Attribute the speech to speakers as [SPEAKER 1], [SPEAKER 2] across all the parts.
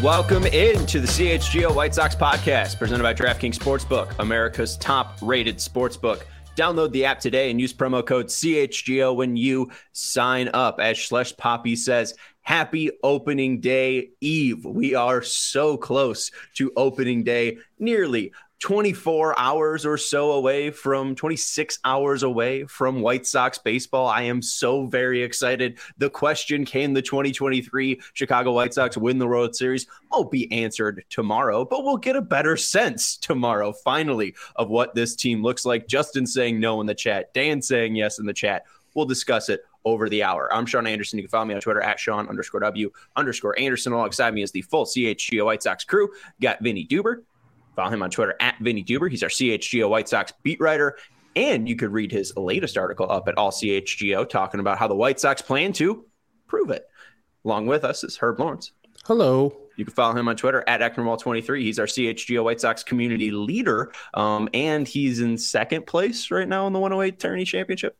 [SPEAKER 1] Welcome into the CHGO White Sox podcast presented by DraftKings Sportsbook, America's top-rated sportsbook. Download the app today and use promo code CHGO when you sign up. As Schlesh Poppy says, happy opening day eve. We are so close to opening day, nearly 24 hours or so away from 26 hours away from White Sox baseball. I am so very excited. The question, can the 2023 Chicago White Sox win the World Series, won't be answered tomorrow, but we'll get a better sense tomorrow, finally, of what this team looks like. Justin saying no in the chat, Dan saying yes in the chat. We'll discuss it over the hour. I'm Sean Anderson. You can follow me on Twitter at Sean_W_Anderson. Alongside me is the full CHGO White Sox crew. Got Vinny Duber. Follow him on Twitter at Vinny Duber. He's our CHGO White Sox beat writer. And you could read his latest article up at All CHGO talking about how the White Sox plan to prove it. Along with us is Herb Lawrence.
[SPEAKER 2] Hello.
[SPEAKER 1] You can follow him on Twitter at Ecknerwall23. He's our CHGO White Sox community leader. And he's in second place right now in the 108 Tourney Championship.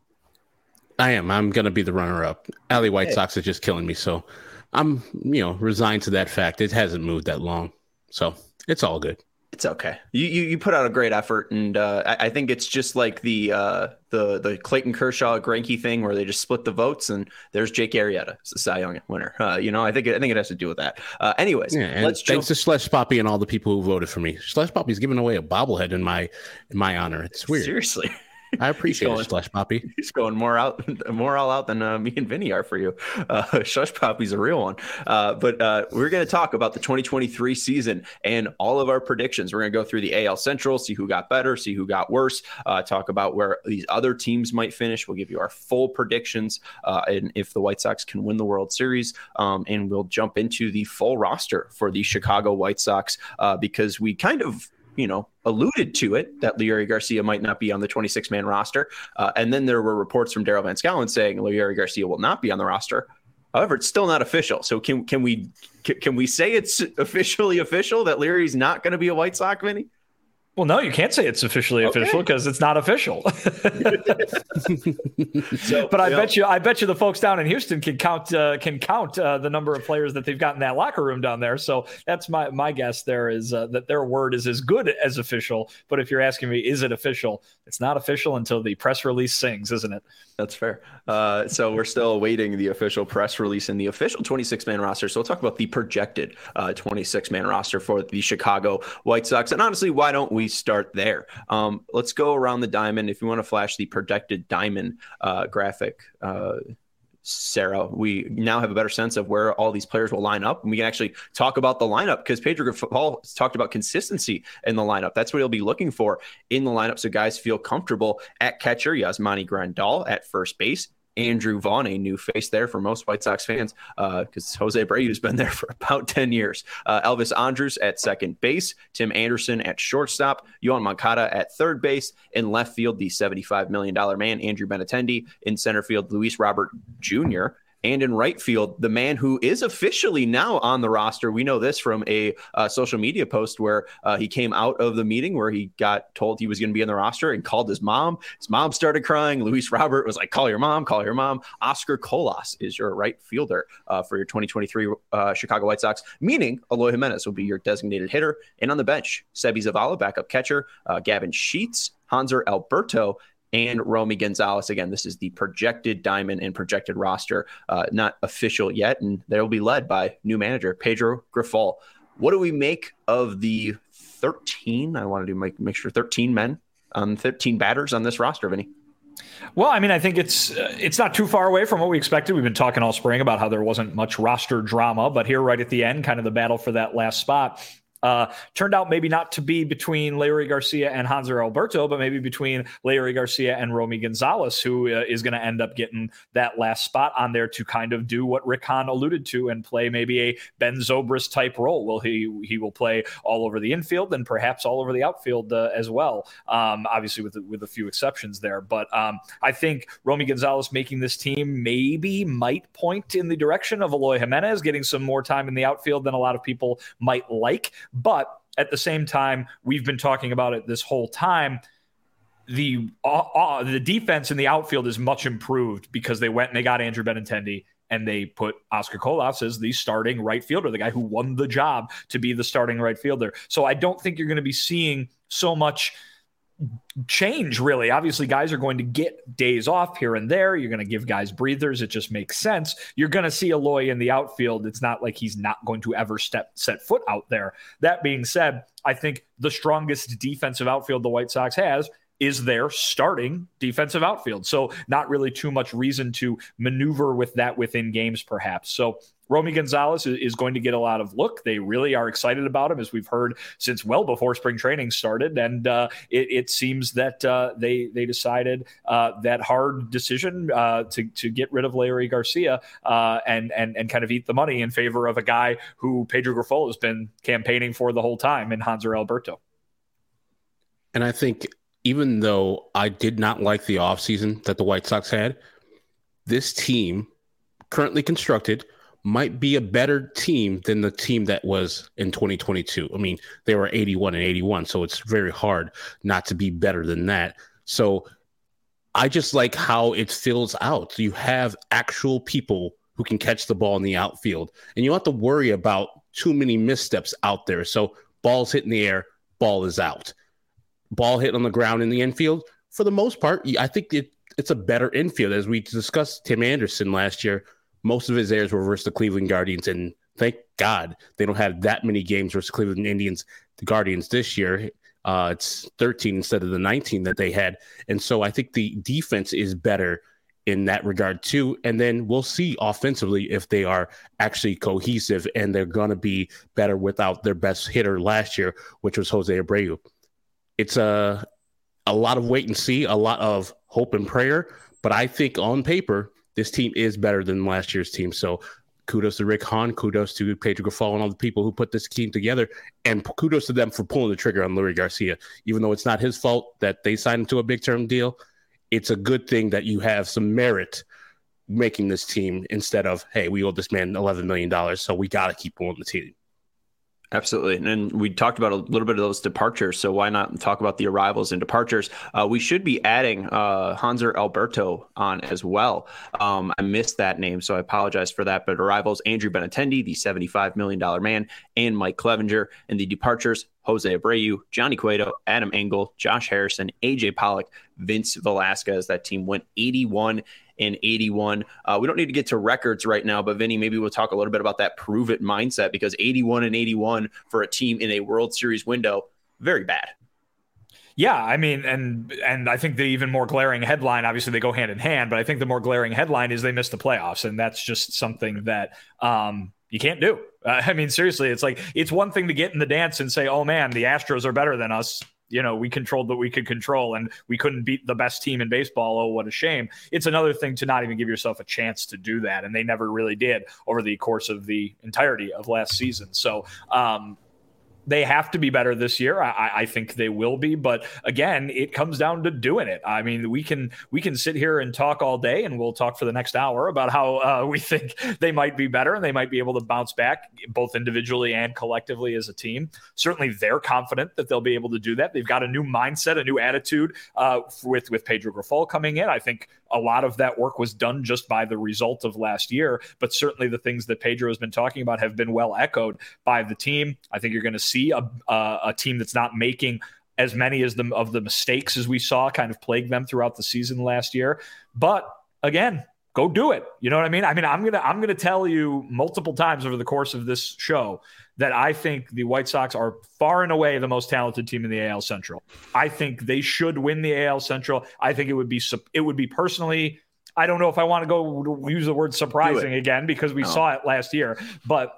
[SPEAKER 2] I am. I'm going to be the runner-up. Alley White Sox is just killing me. So I'm, resigned to that fact. It hasn't moved that long. So it's all good.
[SPEAKER 1] It's okay. You put out a great effort, and I think it's just like the Clayton Kershaw Greinke thing where they just split the votes, and there's Jake Arrieta, the Cy Young winner. I think it has to do with that. Anyways,
[SPEAKER 2] thanks to Schlesh Poppy and all the people who voted for me. Schlesh Poppy's giving away a bobblehead in my honor. It's weird.
[SPEAKER 1] Seriously.
[SPEAKER 2] I appreciate it, Schlesh Poppy.
[SPEAKER 1] He's going more all out than me and Vinny are for you. Schlesh Poppy's a real one. But we're going to talk about the 2023 season and all of our predictions. We're going to go through the AL Central, see who got better, see who got worse, talk about where these other teams might finish. We'll give you our full predictions and if the White Sox can win the World Series. And we'll jump into the full roster for the Chicago White Sox because we kind of alluded to it that Leury Garcia might not be on the 26-man roster. And then there were reports from Daryl Van Schouwen saying Leury Garcia will not be on the roster. However, it's still not official. So can we say it's officially official that Leury's not going to be a White Sox, Vinny?
[SPEAKER 3] Well, no, you can't say it's officially official because it's not official. But I bet you the folks down in Houston can count the number of players that they've got in that locker room down there. So that's my guess. There is that their word is as good as official. But if you're asking me, is it official? It's not official until the press release sings, isn't it?
[SPEAKER 1] That's fair. So we're still awaiting the official press release and the official 26-man roster. So we'll talk about the projected 26-man roster for the Chicago White Sox. And honestly, why don't we start there? Let's go around the diamond. If you want to flash the projected diamond graphic, Sarah, we now have a better sense of where all these players will line up. And we can actually talk about the lineup because Pedro Grifol talked about consistency in the lineup. That's what he'll be looking for in the lineup. So guys feel comfortable at catcher. Yasmani Grandal at first base. Andrew Vaughn, a new face there for most White Sox fans because Jose Abreu's been there for about 10 years. Elvis Andrus at second base, Tim Anderson at shortstop, Yoan Moncada at third base, in left field, the $75 million man, Andrew Benintendi, in center field, Luis Robert Jr., and in right field, the man who is officially now on the roster. We know this from a social media post where he came out of the meeting where he got told he was going to be on the roster and called his mom. His mom started crying. Luis Robert was like, call your mom, call your mom. Oscar Colas is your right fielder for your 2023 Chicago White Sox, meaning Eloy Jimenez will be your designated hitter. And on the bench, Sebi Zavala, backup catcher, Gavin Sheets, Hanser Alberto, and Romy Gonzalez. Again, this is the projected diamond and projected roster, not official yet, and they'll be led by new manager Pedro Grifol. What do we make of the 13? I wanted to make sure 13 men on 13 batters on this roster, Vinny.
[SPEAKER 3] Well, I mean, I think it's not too far away from what we expected. We've been talking all spring about how there wasn't much roster drama, but here right at the end, kind of the battle for that last spot. Turned out maybe not to be between Leury Garcia and Hanser Alberto, but maybe between Leury Garcia and Romy Gonzalez, who is going to end up getting that last spot on there to kind of do what Rick Hahn alluded to and play maybe a Ben Zobrist type role. Well, he will play all over the infield and perhaps all over the outfield as well. Obviously with a few exceptions there, but I think Romy Gonzalez making this team maybe might point in the direction of Eloy Jimenez getting some more time in the outfield than a lot of people might like. But at the same time, we've been talking about it this whole time. The defense in the outfield is much improved because they went and they got Andrew Benintendi and they put Oscar Colas as the starting right fielder, the guy who won the job to be the starting right fielder. So I don't think you're going to be seeing so much change, really. Obviously, guys are going to get days off here and there. You're going to give guys breathers. It just makes sense. You're going to see Eloy in the outfield. It's not like he's not going to ever set foot out there. That being said, I think the strongest defensive outfield the White Sox has is their starting defensive outfield. So not really too much reason to maneuver with that within games, perhaps. So Romy Gonzalez is going to get a lot of look. They really are excited about him, as we've heard since well before spring training started. And it seems that they decided that hard decision to get rid of Leury Garcia and kind of eat the money in favor of a guy who Pedro Grifol has been campaigning for the whole time in Hanser Alberto.
[SPEAKER 2] And I think even though I did not like the offseason that the White Sox had, this team currently constructed might be a better team than the team that was in 2022. I mean, they were 81 and 81, so it's very hard not to be better than that. So I just like how it fills out. You have actual people who can catch the ball in the outfield, and you don't have to worry about too many missteps out there. So ball's hit in the air, ball is out. Ball hit on the ground in the infield, for the most part, I think it's a better infield. As we discussed, Tim Anderson last year, most of his errors were versus the Cleveland Guardians, and thank God they don't have that many games versus Cleveland Indians, the Guardians this year. It's 13 instead of the 19 that they had. And so I think the defense is better in that regard too. And then we'll see offensively if they are actually cohesive, and they're going to be better without their best hitter last year, which was Jose Abreu. It's a lot of wait and see, a lot of hope and prayer, but I think on paper, this team is better than last year's team. So kudos to Rick Hahn, kudos to Pedro Grifol and all the people who put this team together, and kudos to them for pulling the trigger on Leury Garcia. Even though it's not his fault that they signed him to a big-term deal, it's a good thing that you have some merit making this team instead of, hey, we owe this man $11 million, so we got to keep pulling the team.
[SPEAKER 1] Absolutely. And we talked about a little bit of those departures, so why not talk about the arrivals and departures? We should be adding Hanser Alberto on as well. I missed that name, so I apologize for that. But arrivals, Andrew Benintendi, the $75 million man, and Mike Clevenger. And the departures, Jose Abreu, Johnny Cueto, Adam Engel, Josh Harrison, AJ Pollock, Vince Velasquez. That team went 81 and 81. We don't need to get to records right now, but Vinny, maybe we'll talk a little bit about that prove it mindset, because 81 and 81 for a team in a World Series window, very bad.
[SPEAKER 3] Yeah, I mean, and I think the even more glaring headline, obviously they go hand in hand, but I think the more glaring headline is they missed the playoffs, and that's just something that you can't do. I mean, seriously, it's like, it's one thing to get in the dance and say, oh man, the Astros are better than us. You know, we controlled what we could control and we couldn't beat the best team in baseball. Oh, what a shame. It's another thing to not even give yourself a chance to do that. And they never really did over the course of the entirety of last season. So, they have to be better this year. I think they will be, but again, it comes down to doing it. I mean, we can sit here and talk all day, and we'll talk for the next hour about how we think they might be better and they might be able to bounce back both individually and collectively as a team. Certainly, they're confident that they'll be able to do that. They've got a new mindset, a new attitude with Pedro Grifol coming in. I think a lot of that work was done just by the result of last year, but certainly the things that Pedro has been talking about have been well echoed by the team. I think you're going to see a team that's not making as many of the mistakes as we saw kind of plague them throughout the season last year. But again, go do it. You know what I mean? I mean, I'm going to tell you multiple times over the course of this show that I think the White Sox are far and away the most talented team in the AL Central. I think they should win the AL Central. I think it would be personally, I don't know if I want to go use the word surprising again, because we saw it last year, but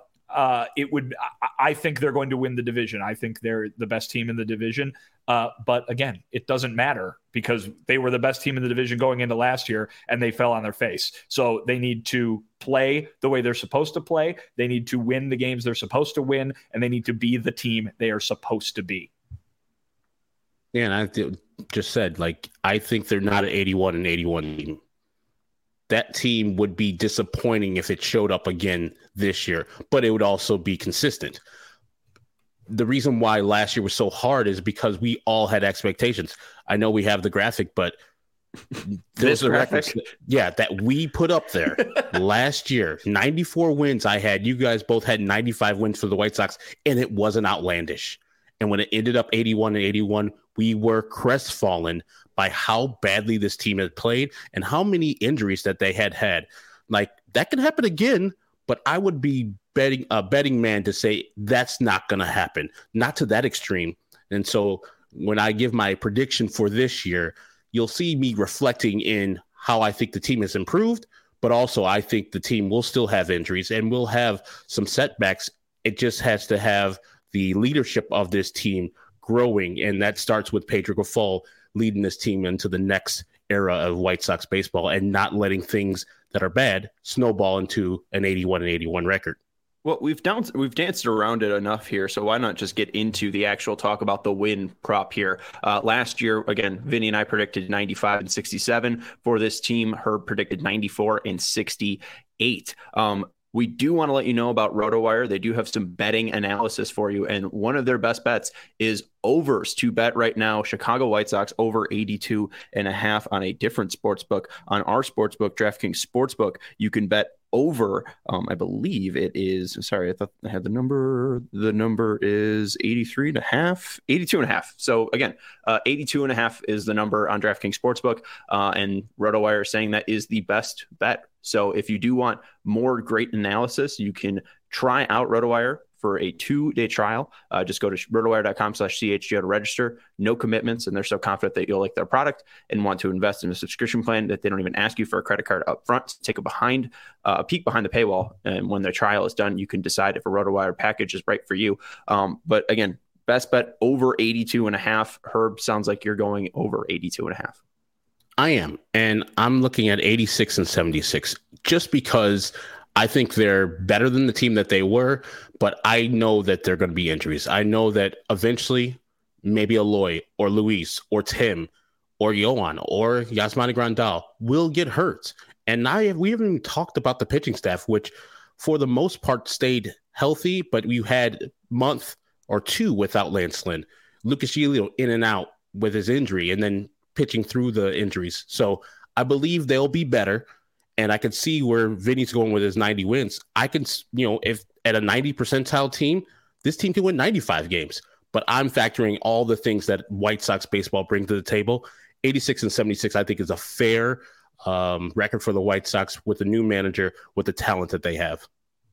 [SPEAKER 3] I think they're going to win the division. I think they're the best team in the division. But again, it doesn't matter, because they were the best team in the division going into last year and they fell on their face. So they need to play the way they're supposed to play. They need to win the games they're supposed to win, and they need to be the team they are supposed to be.
[SPEAKER 2] Yeah, and I just said, like, I think they're not an 81 and 81 team. That team would be disappointing if it showed up again this year, but it would also be consistent. The reason why last year was so hard is because we all had expectations. I know we have the graphic, but Those records, that we put up there last year, 94 wins I had. You guys both had 95 wins for the White Sox, and it wasn't outlandish. And when it ended up 81-81, we were crestfallen by how badly this team had played and how many injuries that they had. Like, that can happen again, but I would be a betting man to say that's not going to happen, not to that extreme. And so when I give my prediction for this year, you'll see me reflecting in how I think the team has improved, but also I think the team will still have injuries and will have some setbacks. It just has to have the leadership of this team growing, and that starts with Pedro Grifol leading this team into the next era of White Sox baseball and not letting things that are bad snowball into an 81-81 record.
[SPEAKER 1] Well, we've danced around it enough here, so why not just get into the actual talk about the win prop here? Last year, again, Vinny and I predicted 95-67 for this team. Herb predicted 94-68. We do want to let you know about RotoWire. They do have some betting analysis for you, and one of their best bets is overs to bet right now. Chicago White Sox over 82.5 on a different sports book. On our sports book, DraftKings Sportsbook, you can bet over, I believe it is, sorry, I thought I had the number. The number is 82.5. So again, 82.5 is the number on DraftKings Sportsbook, and RotoWire is saying that is the best bet. So if you do want more great analysis, you can try out RotoWire for a 2-day trial. Just go to rotowire.com/CHGO to register. No commitments, and they're so confident that you'll like their product and want to invest in a subscription plan that they don't even ask you for a credit card up front. Take a peek behind the paywall, and when the trial is done, you can decide if a RotoWire package is right for you. But again, best bet over 82.5. Herb, sounds like you're going over 82.5.
[SPEAKER 2] I am, and I'm looking at 86-76 just because I think they're better than the team that they were, but I know that there are going to be injuries. I know that eventually maybe Eloy or Luis or Tim or Yohan or Yasmani Grandal will get hurt. And we haven't even talked about the pitching staff, which for the most part stayed healthy, but we had a month or two without Lance Lynn. Lucas Giolito in and out with his injury and then pitching through the injuries. So I believe they'll be better. And I can see where Vinny's going with his 90 wins. I can, if at a 90 percentile team, this team can win 95 games. But I'm factoring all the things that White Sox baseball bring to the table. 86-76, I think, is a fair record for the White Sox with the new manager, with the talent that they have.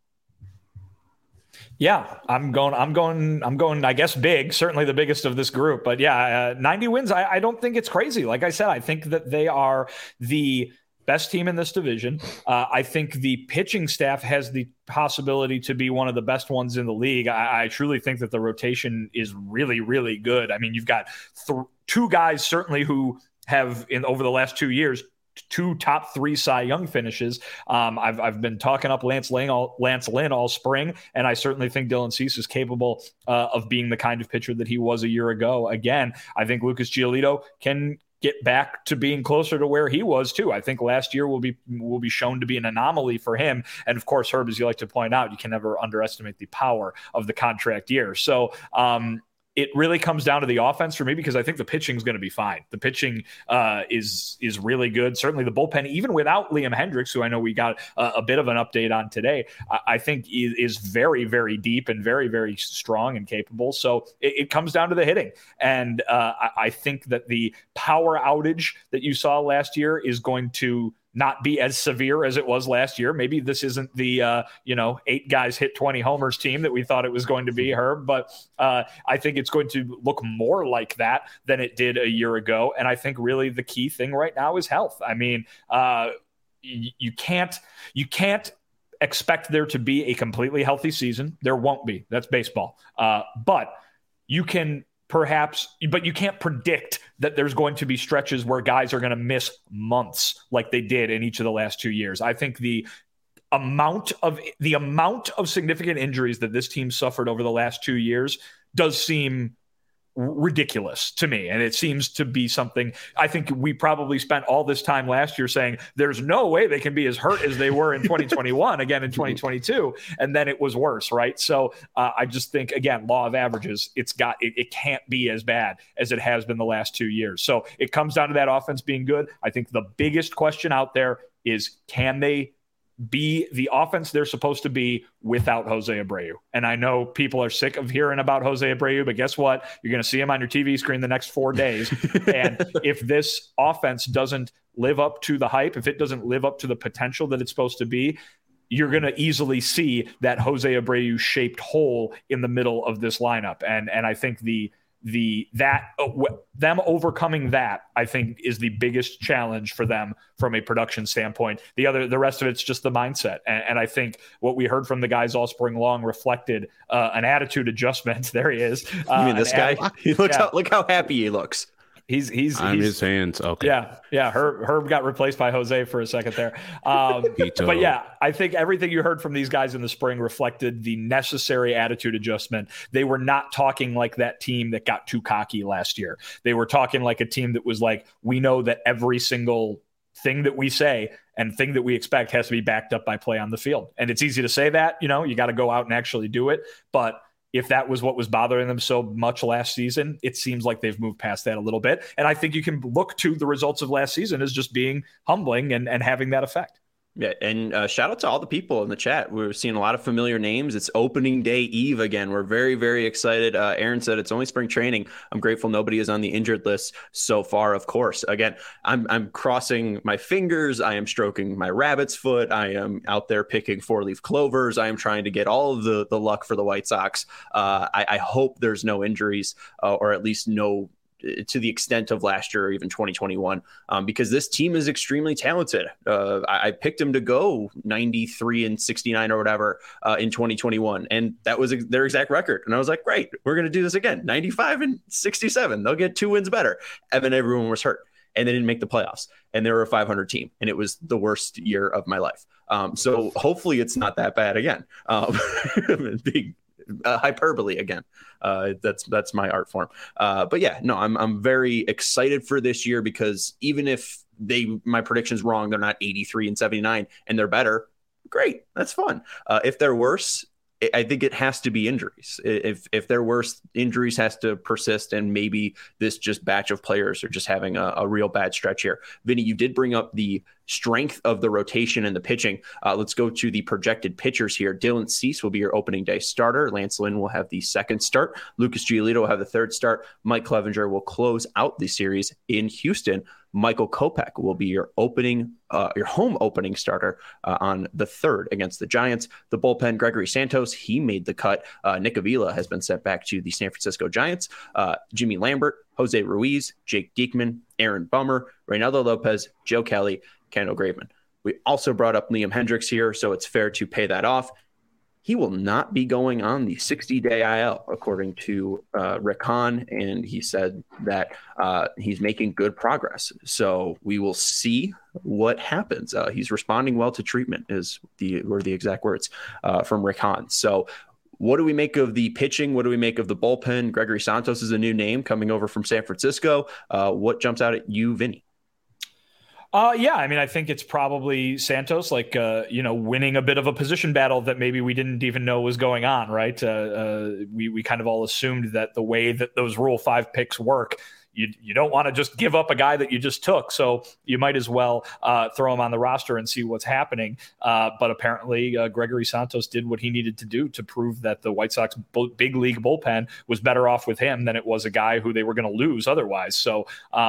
[SPEAKER 3] Yeah, I'm going, I guess, big, certainly the biggest of this group. But yeah, 90 wins, I don't think it's crazy. Like I said, I think that they are the best team in this division. I think the pitching staff has the possibility to be one of the best ones in the league. I truly think that the rotation is really, really good. I mean, you've got two guys certainly who have, over the last 2 years, 2 top 3 Cy Young finishes. I've been talking up Lance Lynn all spring, and I certainly think Dylan Cease is capable of being the kind of pitcher that he was a year ago. Again, I think Lucas Giolito can get back to being closer to where he was too. I think last year will be shown to be an anomaly for him. And of course, Herb, as you like to point out, you can never underestimate the power of the contract year. So it really comes down to the offense for me, because I think the pitching is going to be fine. The pitching is really good. Certainly the bullpen, even without Liam Hendricks, who I know we got a bit of an update on today, I think is very, very deep and very, very strong and capable. So it comes down to the hitting. And I think that the power outage that you saw last year is going to not be as severe as it was last year. Maybe this isn't the 8 guys hit 20 homers team that we thought it was going to be, Herb, but I think it's going to look more like that than it did a year ago. And I think really the key thing right now is health. I mean, you can't expect there to be a completely healthy season. There won't be. That's baseball. But you can but you can't predict that there's going to be stretches where guys are going to miss months like they did in each of the last 2 years. I think the amount of significant injuries that this team suffered over the last 2 years does seem ridiculous to me. And it seems to be something, I think we probably spent all this time last year saying there's no way they can be as hurt as they were in 2021 again in 2022. And then it was worse. Right. So I just think, again, law of averages, it can't be as bad as it has been the last 2 years. So it comes down to that offense being good. I think the biggest question out there is, can they be the offense they're supposed to be without Jose Abreu? And I know people are sick of hearing about Jose Abreu, but guess what? You're going to see him on your TV screen the next 4 days. And if this offense doesn't live up to the hype, if it doesn't live up to the potential that it's supposed to be, you're going to easily see that Jose Abreu shaped hole in the middle of this lineup. And I think them overcoming that, I think, is the biggest challenge for them from a production standpoint. The rest of it's just the mindset. And I think what we heard from the guys all spring long reflected an attitude adjustment. There he is.
[SPEAKER 1] You mean this guy? Look how happy he looks.
[SPEAKER 3] He's
[SPEAKER 2] his hands. Okay.
[SPEAKER 3] Yeah. Herb got replaced by Jose for a second there. But yeah, I think everything you heard from these guys in the spring reflected the necessary attitude adjustment. They were not talking like that team that got too cocky last year. They were talking like a team that was like, we know that every single thing that we say and thing that we expect has to be backed up by play on the field. And it's easy to say that, you got to go out and actually do it. But if that was what was bothering them so much last season, it seems like they've moved past that a little bit. And I think you can look to the results of last season as just being humbling and having that effect.
[SPEAKER 1] Yeah, and shout out to all the people in the chat. We're seeing a lot of familiar names. It's opening day eve again. We're very, very excited. Aaron said it's only spring training. I'm grateful nobody is on the injured list so far, of course. Again, I'm crossing my fingers. I am stroking my rabbit's foot. I am out there picking 4-leaf clovers. I am trying to get all of the luck for the White Sox. I hope there's no injuries or at least no to the extent of last year or even 2021, because this team is extremely talented. I picked them to go 93-69 or whatever in 2021, and that was their exact record. And I was like, great, we're going to do this again, 95-67. They'll get 2 wins better. And then everyone was hurt, and they didn't make the playoffs, and they were a 500 team, and it was the worst year of my life. So hopefully it's not that bad again. Big hyperbole again. That's my art form. But yeah, no, I'm very excited for this year, because even if my prediction's wrong, they're not 83-79 and they're better. Great. That's fun. If they're worse, I think it has to be injuries. If they're worse, injuries has to persist, and maybe this just batch of players are just having a real bad stretch here. Vinny, you did bring up the strength of the rotation and the pitching. Let's go to the projected pitchers here. Dylan Cease will be your opening day starter. Lance Lynn will have the second start. Lucas Giolito will have the third start. Mike Clevenger will close out the series in Houston. Michael Kopech will be your home opening starter on the third against the Giants. The bullpen, Gregory Santos, he made the cut. Nick Avila has been sent back to the San Francisco Giants. Jimmy Lambert, Jose Ruiz, Jake Diekman, Aaron Bummer, Reynaldo Lopez, Joe Kelly, Kendall Graveman. We also brought up Liam Hendriks here, so it's fair to pay that off. He will not be going on the 60-day IL, according to Rick Hahn, and he said that he's making good progress. So we will see what happens. He's responding well to treatment, were the exact words from Rick Hahn. So what do we make of the pitching? What do we make of the bullpen? Gregory Santos is a new name coming over from San Francisco. What jumps out at you, Vinny?
[SPEAKER 3] Yeah, I mean, I think it's probably Santos, winning a bit of a position battle that maybe we didn't even know was going on, right? We kind of all assumed that the way that those Rule 5 picks work, you don't want to just give up a guy that you just took. So you might as well throw him on the roster and see what's happening. But apparently Gregory Santos did what he needed to do to prove that the White Sox big league bullpen was better off with him than it was a guy who they were going to lose otherwise. So,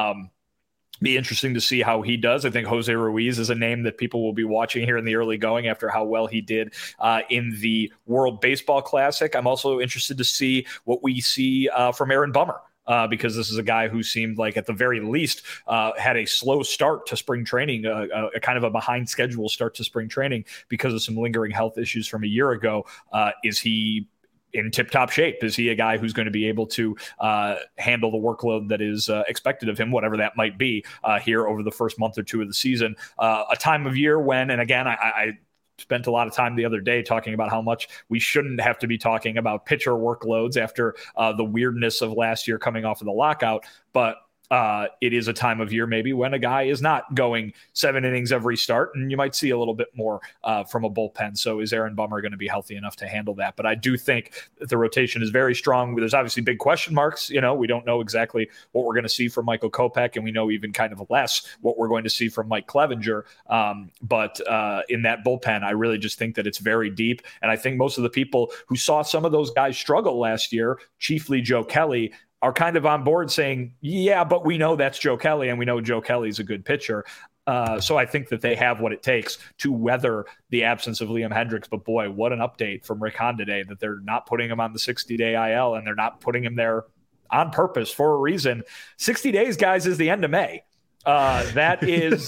[SPEAKER 3] be interesting to see how he does. I think Jose Ruiz is a name that people will be watching here in the early going after how well he did in the World Baseball Classic. I'm also interested to see what we see from Aaron Bummer. Because this is a guy who seemed like at the very least had a slow start to spring training, a kind of a behind schedule start to spring training because of some lingering health issues from a year ago. Is he in tip-top shape? Is he a guy who's going to be able to handle the workload that is expected of him, whatever that might be, here over the first month or two of the season? A time of year when, and again, I spent a lot of time the other day talking about how much we shouldn't have to be talking about pitcher workloads after the weirdness of last year coming off of the lockout. But it is a time of year maybe when a guy is not going 7 innings every start, and you might see a little bit more from a bullpen. So is Aaron Bummer going to be healthy enough to handle that? But I do think that the rotation is very strong. There's obviously big question marks. We don't know exactly what we're going to see from Michael Kopech, and we know even kind of less what we're going to see from Mike Clevenger. But in that bullpen, I really just think that it's very deep. And I think most of the people who saw some of those guys struggle last year, chiefly Joe Kelly, are kind of on board saying, yeah, but we know that's Joe Kelly, and we know Joe Kelly's a good pitcher. So I think that they have what it takes to weather the absence of Liam Hendriks. But boy, what an update from Rick Hahn today that they're not putting him on the 60-day IL, and they're not putting him there on purpose for a reason. 60 days, guys, is the end of May. That is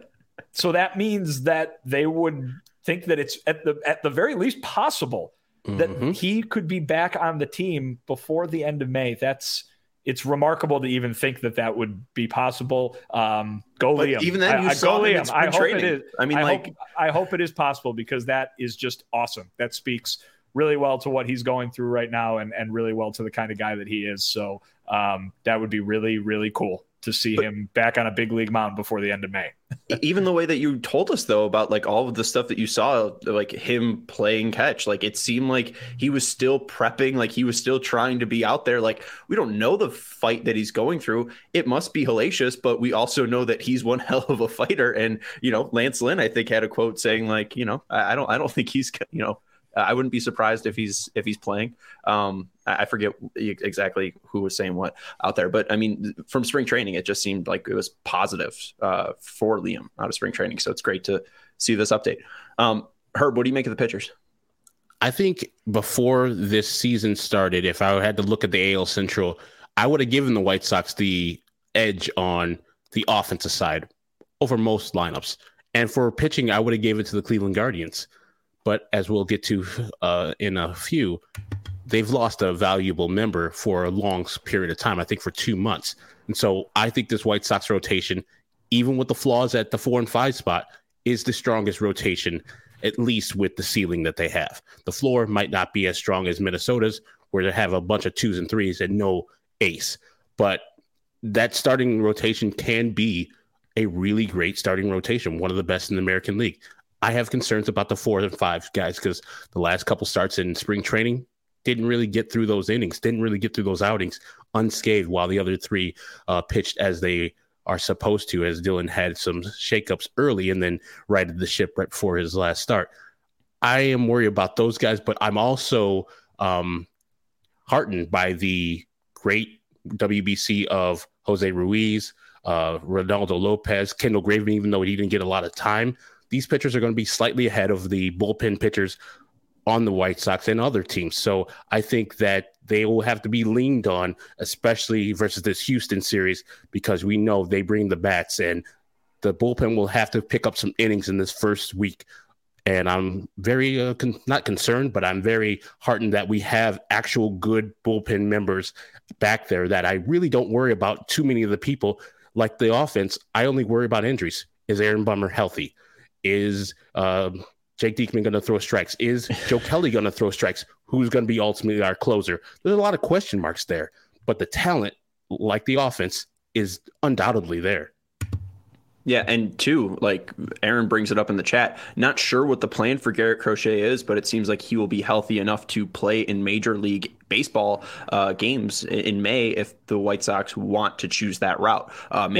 [SPEAKER 3] so that means that they would think that it's at the very least possible that he could be back on the team before the end of May. It's remarkable to even think that would be possible. Go Liam.
[SPEAKER 1] Even then, you saw Liam.
[SPEAKER 3] I hope it is. I hope it is possible, because that is just awesome. That speaks really well to what he's going through right now, and really well to the kind of guy that he is. So that would be really, really cool to see him back on a big league mound before the end of May.
[SPEAKER 1] Even the way that you told us, though, about like all of the stuff that you saw, like him playing catch, like it seemed like he was still prepping, like he was still trying to be out there. Like, we don't know the fight that he's going through. It must be hellacious, but we also know that he's one hell of a fighter. And, Lance Lynn, I think, had a quote saying like, I don't think he's, I wouldn't be surprised if he's playing. I forget exactly who was saying what out there, but I mean, from spring training, it just seemed like it was positive for Liam out of spring training. So it's great to see this update. Herb, what do you make of the pitchers?
[SPEAKER 2] I think before this season started, if I had to look at the AL Central, I would have given the White Sox the edge on the offensive side over most lineups. And for pitching, I would have gave it to the Cleveland Guardians. But as we'll get to in a few, they've lost a valuable member for a long period of time, I think for 2 months. And so I think this White Sox rotation, even with the flaws at the 4 and 5 spot, is the strongest rotation, at least with the ceiling that they have. The floor might not be as strong as Minnesota's, where they have a bunch of 2s and 3s and no ace. But that starting rotation can be a really great starting rotation, one of the best in the American League. I have concerns about the 4 and 5 guys, because the last couple starts in spring training didn't really get through those innings, didn't really get through those outings unscathed, while the other 3 pitched as they are supposed to, as Dylan had some shakeups early and then righted the ship right before his last start. I am worried about those guys, but I'm also heartened by the great WBC of Jose Ruiz, Ronaldo Lopez, Kendall Graveman, even though he didn't get a lot of time. These pitchers are going to be slightly ahead of the bullpen pitchers on the White Sox and other teams. So I think that they will have to be leaned on, especially versus this Houston series, because we know they bring the bats, and the bullpen will have to pick up some innings in this first week. And I'm very not concerned, but I'm very heartened that we have actual good bullpen members back there, that I really don't worry about too many of the people. Like the offense, I only worry about injuries. Is Aaron Bummer healthy? Is Jake Diekman going to throw strikes? Is Joe Kelly going to throw strikes? Who's going to be ultimately our closer? There's a lot of question marks there, but the talent, like the offense, is undoubtedly there.
[SPEAKER 1] Yeah, and 2, like Aaron brings it up in the chat, not sure what the plan for Garrett Crochet is, but it seems like he will be healthy enough to play in Major League Baseball games in May if the White Sox want to choose that route.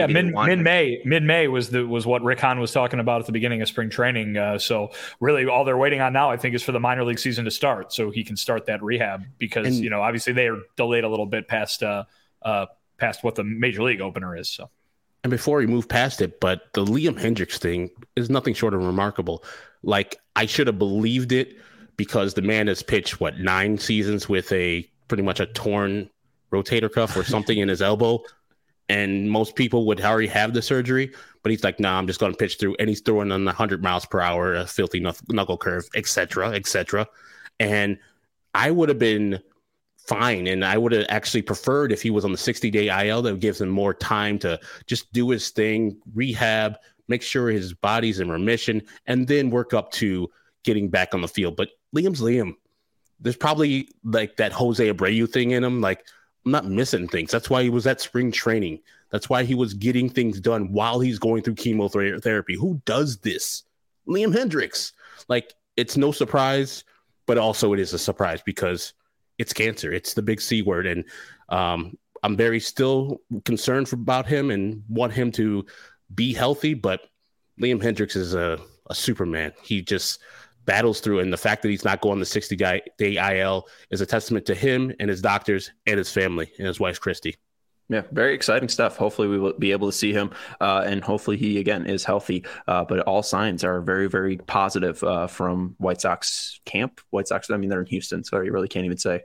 [SPEAKER 1] Mid-May
[SPEAKER 3] was what Rick Hahn was talking about at the beginning of spring training. So really all they're waiting on now, I think, is for the minor league season to start so he can start that rehab, because, obviously they are delayed a little bit past what the Major League opener is. So.
[SPEAKER 2] And before we move past it, but the Liam Hendriks thing is nothing short of remarkable. Like, I should have believed it, because the man has pitched, 9 seasons with pretty much a torn rotator cuff or something in his elbow. And most people would already have the surgery, but he's like, nah, I'm just going to pitch through. And he's throwing on 100 miles per hour, a filthy knuckle curve, et cetera, et cetera. And I would have been fine. And I would have actually preferred if he was on the 60-day IL. That gives him more time to just do his thing, rehab, make sure his body's in remission, and then work up to getting back on the field. But Liam's Liam. There's probably like that Jose Abreu thing in him. Like, I'm not missing things. That's why he was at spring training. That's why he was getting things done while he's going through chemotherapy. Who does this? Liam Hendriks. Like, it's no surprise, but also it is a surprise because it's cancer. It's the big C word. And I'm very still concerned about him and want him to be healthy. But Liam Hendriks is a Superman. He just battles through. And the fact that he's not going the 60-day IL is a testament to him and his doctors and his family and his wife, Christy.
[SPEAKER 1] Yeah, very exciting stuff. Hopefully we will be able to see him and hopefully he, again, is healthy. But all signs are very, very positive from White Sox camp. White Sox, I mean, they're in Houston, so you really can't even say.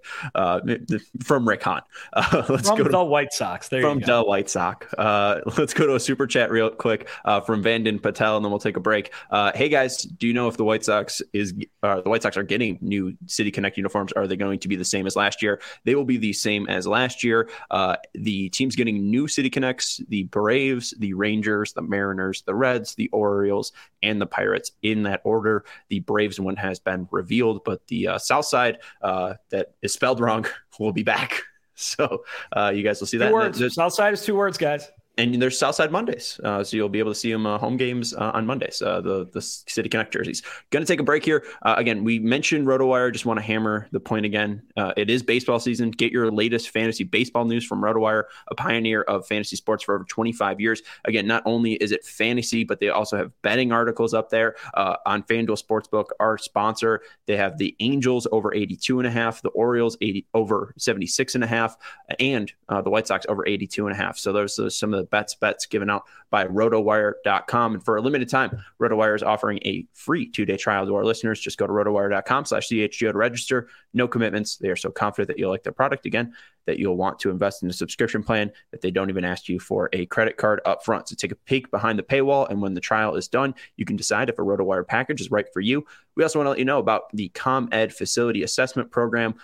[SPEAKER 1] From Rick Hahn.
[SPEAKER 3] Let's go to the White Sox.
[SPEAKER 1] From the White Sox. Let's go to a super chat real quick from Vandin Patel, and then we'll take a break. Hey, guys, do you know if the White Sox are getting new City Connect uniforms? Are they going to be the same as last year? They will be the same as last year. The teams getting new City Connects: the Braves, the Rangers, the Mariners, the Reds, the Orioles, and the Pirates in that order. The Braves one has been revealed, but the South Side that is spelled wrong will be back. So you guys will see that.
[SPEAKER 3] Two words. South Side is 2 words, guys.
[SPEAKER 1] And there's Southside Mondays, so you'll be able to see them home games on Mondays, the City Connect jerseys. Going to take a break here. Again, we mentioned RotoWire. Just want to hammer the point again. It is baseball season. Get your latest fantasy baseball news from RotoWire, a pioneer of fantasy sports for over 25 years. Again, not only is it fantasy, but they also have betting articles up there on FanDuel Sportsbook, our sponsor. They have the Angels over 82.5, the Orioles over 76.5, and the White Sox over 82.5. So those are some of the bets given out by rotowire.com. And for a limited time, RotoWire is offering a free 2-day trial to our listeners. Just go to rotowire.com/CHGO to register. No commitments. They are so confident that you'll like their product again, that you'll want to invest in a subscription plan, that they don't even ask you for a credit card up front. So take a peek behind the paywall, and when the trial is done, you can decide if a RotoWire package is right for you. We also want to let you know about the ComEd Facility Assessment Program.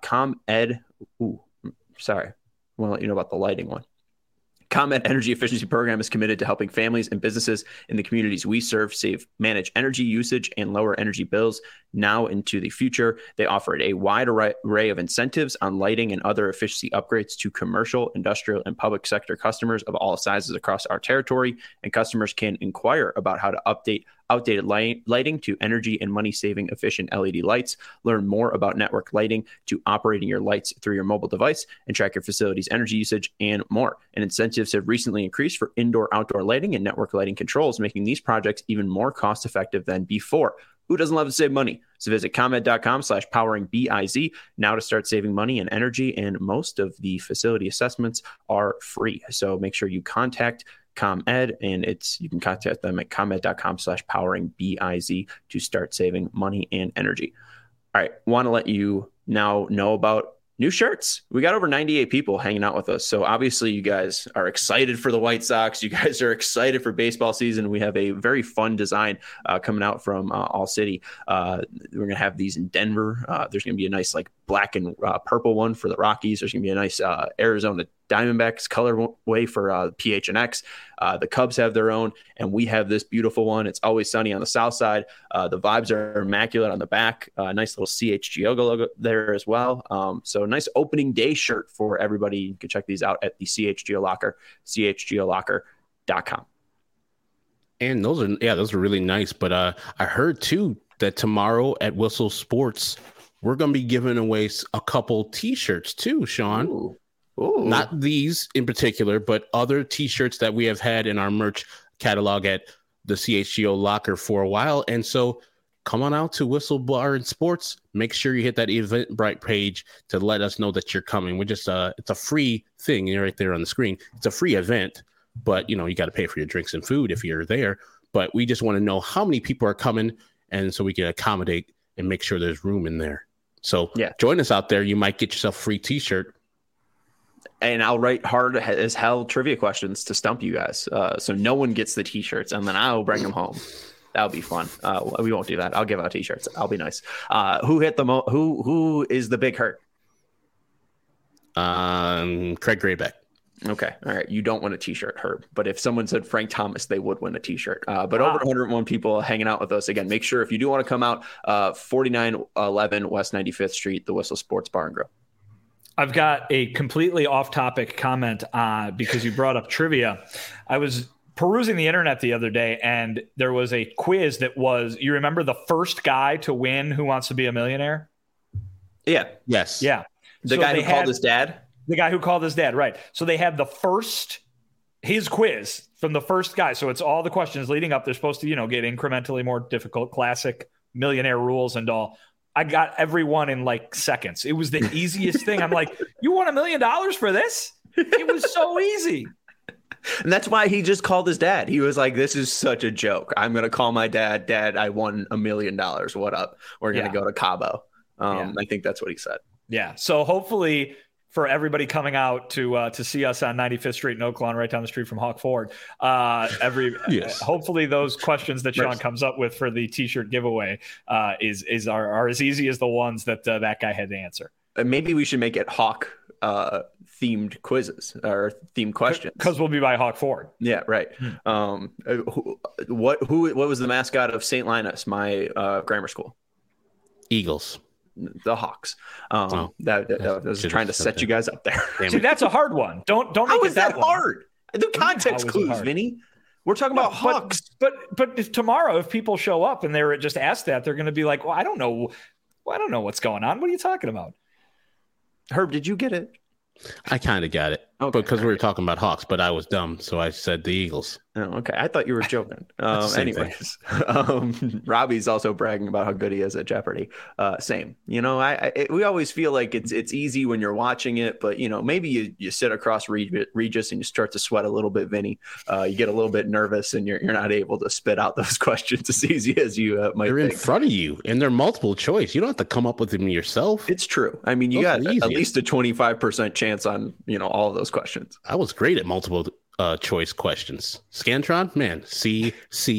[SPEAKER 1] I want to let you know about the lighting one. ComEd Energy Efficiency Program is committed to helping families and businesses in the communities we serve manage energy usage and lower energy bills now into the future. They offered a wide array of incentives on lighting and other efficiency upgrades to commercial, industrial, and public sector customers of all sizes across our territory. And customers can inquire about how to update outdated lighting to energy and money-saving efficient LED lights. Learn more about network lighting to operating your lights through your mobile device and track your facility's energy usage and more. And incentives have recently increased for indoor-outdoor lighting and network lighting controls, making these projects even more cost-effective than before. Who doesn't love to save money? So visit ComEd.com/poweringBIZ now to start saving money and energy. And most of the facility assessments are free. So make sure you contact ComEd, and you can contact them at ComEd.com/poweringBIZ to start saving money and energy. All right. Want to let you now know about new shirts. We got over 98 people hanging out with us. So obviously you guys are excited for the White Sox. You guys are excited for baseball season. We have a very fun design coming out from All City. We're going to have these in Denver. There's going to be a nice like black and purple one for the Rockies. There's going to be a nice Arizona Diamondbacks colorway for PHNX. The Cubs have their own, and we have this beautiful one. It's Always Sunny on the south side. The vibes are immaculate on the back. Nice little CHGO logo there as well. So nice opening day shirt for everybody. You can check these out at the CHGO Locker, chgolocker.com.
[SPEAKER 2] And those are really nice. But I heard too that tomorrow at Whistle Sports, we're going to be giving away a couple T-shirts too, Sean.
[SPEAKER 1] Ooh.
[SPEAKER 2] Not these in particular, but other T-shirts that we have had in our merch catalog at the CHGO Locker for a while. And so come on out to Whistle Bar and Sports. Make sure you hit that Eventbrite page to let us know that you're coming. It's a free thing. You're right there on the screen. It's a free event, but you got to pay for your drinks and food if you're there. But we just want to know how many people are coming, and so we can accommodate and make sure there's room in there. So join us out there. You might get yourself a free T-shirt.
[SPEAKER 1] And I'll write hard as hell trivia questions to stump you guys. So no one gets the T-shirts, and then I'll bring them home. That'll be fun. We won't do that. I'll give out T-shirts. I'll be nice. Who hit the who is the big hurt?
[SPEAKER 2] Craig Graybeck.
[SPEAKER 1] Okay. All right. You don't win a t-shirt, Herb. But if someone said Frank Thomas, they would win a t-shirt. But over 101 people hanging out with us. Again, make sure if you do want to come out, 4911 West 95th Street, the Whistle Sports Bar and Grill.
[SPEAKER 3] I've got a completely off-topic comment because you brought up trivia. I was perusing the internet the other day, and there was a quiz that was, you remember the first guy to win Who Wants to Be a Millionaire?
[SPEAKER 1] Yeah.
[SPEAKER 2] Yes.
[SPEAKER 3] Yeah.
[SPEAKER 1] The guy who called his dad?
[SPEAKER 3] The guy who called his dad, right. So they had his quiz from the first guy. So it's all the questions leading up. They're supposed to, get incrementally more difficult, classic millionaire rules and all. I got everyone in like seconds. It was the easiest thing. I'm like, you won $1 million for this? It was so easy.
[SPEAKER 1] And that's why he just called his dad. He was like, this is such a joke. I'm going to call my dad. Dad, I won $1 million. What up? We're going to go to Cabo. I think that's what he said.
[SPEAKER 3] Yeah. So hopefully for everybody coming out to see us on 95th Street in Oaklawn, right down the street from Hawk Ford, hopefully those questions that Sean comes up with for the t-shirt giveaway are as easy as the ones that that guy had to answer.
[SPEAKER 1] Maybe we should make it Hawk themed quizzes or themed questions,
[SPEAKER 3] because we'll be by Hawk Ford.
[SPEAKER 1] Yeah, right. What was the mascot of St. Linus, my grammar school?
[SPEAKER 2] Eagles.
[SPEAKER 1] The Hawks. That was trying to set you guys up there.
[SPEAKER 3] See, that's a hard one. Don't
[SPEAKER 1] How
[SPEAKER 3] make
[SPEAKER 1] is
[SPEAKER 3] it
[SPEAKER 1] that hard? The context clues, Vinny. We're talking about Hawks.
[SPEAKER 3] But if tomorrow, if people show up and they're just asked that, they're going to be like, well, I don't know what's going on. What are you talking about?
[SPEAKER 1] Herb, did you get it?
[SPEAKER 2] I kind of got it because we were talking about Hawks, but I was dumb, so I said the Eagles.
[SPEAKER 1] Oh, okay. I thought you were joking. Anyways, Robbie's also bragging about how good he is at Jeopardy. Same. We always feel like it's easy when you're watching it, but maybe you sit across Regis and you start to sweat a little bit, Vinny. You get a little bit nervous and you're not able to spit out those questions as easy as you might.
[SPEAKER 2] They're in front of you, and they're multiple choice. You don't have to come up with them yourself.
[SPEAKER 1] It's true. I mean, you got at least a 25% chance on all of those questions.
[SPEAKER 2] I was great at multiple choice questions. Scantron, man, C,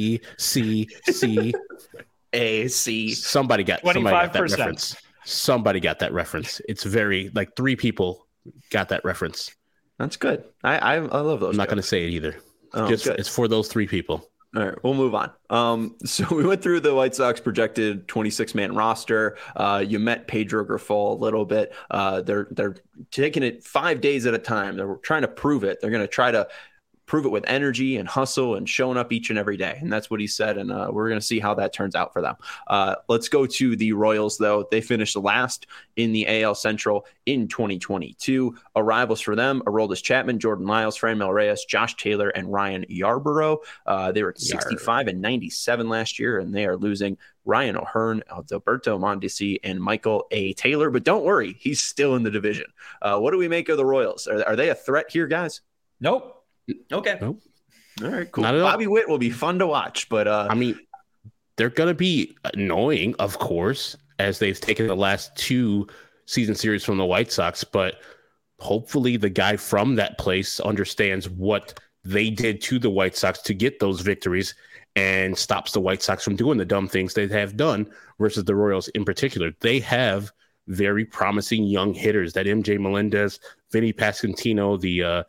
[SPEAKER 1] A, C.
[SPEAKER 2] Somebody got that reference. Somebody got that reference. It's very like 3 people got that reference.
[SPEAKER 1] That's good. I love those.
[SPEAKER 2] I'm not going to say it either. It's for those 3 people.
[SPEAKER 1] All right, we'll move on. So we went through the White Sox projected 26-man roster. You met Pedro Grifol a little bit. They're taking it 5 days at a time. They're trying to prove it. They're going to try to prove it with energy and hustle and showing up each and every day. And that's what he said. And we're going to see how that turns out for them. Let's go to the Royals, though. They finished last in the AL Central in 2022. Arrivals for them: Aroldis Chapman, Jordan Lyles, Franmil Reyes, Josh Taylor, and Ryan Yarborough. They were 65 and 97 last year, and they are losing Ryan O'Hearn, Alberto Mondesi, and Michael A. Taylor. But don't worry, he's still in the division. What do we make of the Royals? Are they a threat here, guys?
[SPEAKER 3] Nope.
[SPEAKER 1] Okay.
[SPEAKER 2] Nope.
[SPEAKER 1] All right, cool. Bobby Witt will be fun to watch, but
[SPEAKER 2] I mean, they're going to be annoying, of course, as they've taken the last 2 season series from the White Sox, but hopefully the guy from that place understands what they did to the White Sox to get those victories and stops the White Sox from doing the dumb things they have done versus the Royals in particular. They have very promising young hitters, that MJ Melendez, Vinny Pasquantino, the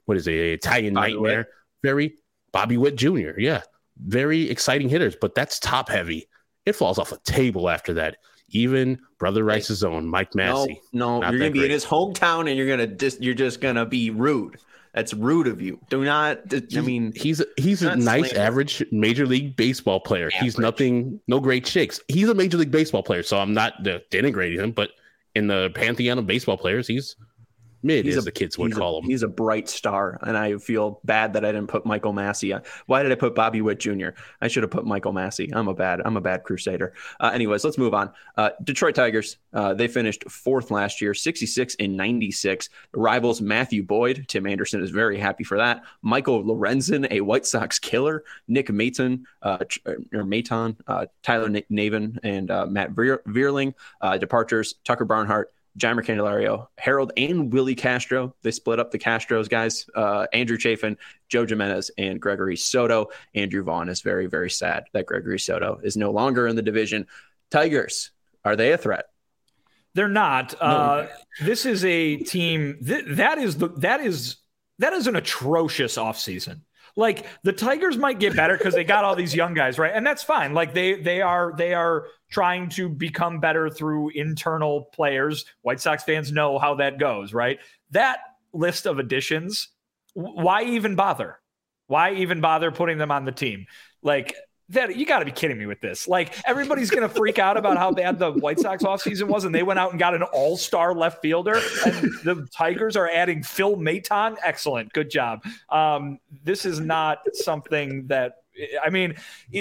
[SPEAKER 2] Italian
[SPEAKER 1] Bobby
[SPEAKER 2] nightmare.
[SPEAKER 1] Witt.
[SPEAKER 2] Very Bobby Witt Jr. Yeah. Very exciting hitters, but that's top heavy. It falls off a table after that. Even Brother Rice's own Mike Massey.
[SPEAKER 1] No, you're going to be in his hometown and you're just going to be rude. That's rude of you. Do not. I mean,
[SPEAKER 2] he's a nice, average Major League Baseball player. Average. He's nothing, no great shakes. He's a Major League Baseball player, so I'm not denigrating him, but in the pantheon of baseball players, he's mid, as the kids would call him.
[SPEAKER 1] He's a bright star, and I feel bad that I didn't put Michael Massey on. Why did I put Bobby Witt Jr.? I should have put Michael Massey. I'm a bad Crusader. Anyways, let's move on. Detroit Tigers, they finished 4th last year, 66 and 96. Rivals Matthew Boyd. Tim Anderson is very happy for that. Michael Lorenzen, a White Sox killer. Nick Maton, Tyler Navin, and Matt Vierling. Departures: Tucker Barnhart, Jeimer Candelario, Harold, and Willie Castro. They split up the Castros guys. Andrew Chafin, Joe Jimenez, and Gregory Soto. Andrew Vaughn is very, very sad that Gregory Soto is no longer in the division. Tigers, are they a threat?
[SPEAKER 3] They're not. No. This is a team that is that is an atrocious offseason. Like the Tigers might get better because they got all these young guys, right? And that's fine. Like they are trying to become better through internal players. White Sox fans know how that goes, right? That list of additions, why even bother? Why even bother putting them on the team? Like that, you got to be kidding me with this. Like everybody's going to freak out about how bad the White Sox offseason was, and they went out and got an all-star left fielder, and the Tigers are adding Phil Maton. Excellent. Good job. This is not something that, I mean,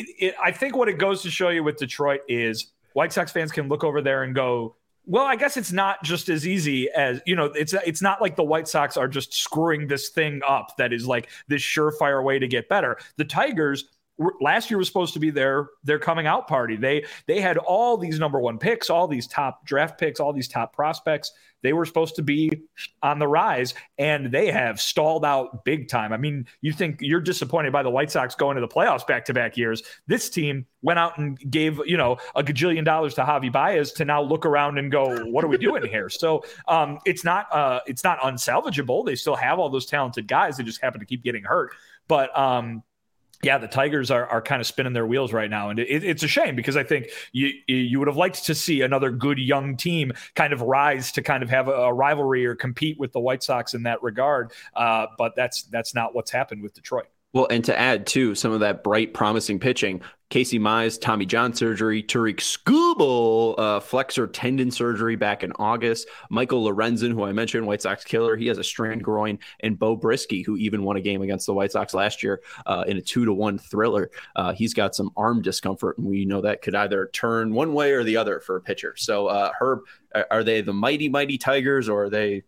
[SPEAKER 3] I think what it goes to show you with Detroit is White Sox fans can look over there and go, well, I guess it's not just as easy as, it's not like the White Sox are just screwing this thing up that is like this surefire way to get better. The Tigers last year was supposed to be their coming out party. They had all these number one picks, all these top draft picks, all these top prospects. They were supposed to be on the rise, and they have stalled out big time. I mean, you think you're disappointed by the White Sox going to the playoffs back-to-back years. This team went out and gave, a gajillion dollars to Javi Baez to now look around and go, what are we doing here? So it's not unsalvageable. They still have all those talented guys. They just happen to keep getting hurt. But yeah, the Tigers are kind of spinning their wheels right now. And it's a shame because I think you would have liked to see another good young team kind of rise to kind of have a rivalry or compete with the White Sox in that regard. But that's not what's happened with Detroit.
[SPEAKER 1] Well, and to add to some of that bright, promising pitching, Casey Mize, Tommy John surgery, Tariq Skubal, flexor tendon surgery back in August, Michael Lorenzen, who I mentioned, White Sox killer, he has a strained groin, and Bo Brisky, who even won a game against the White Sox last year in a 2-1 thriller. He's got some arm discomfort, and we know that could either turn one way or the other for a pitcher. So, Herb, are they the mighty Tigers, or are they,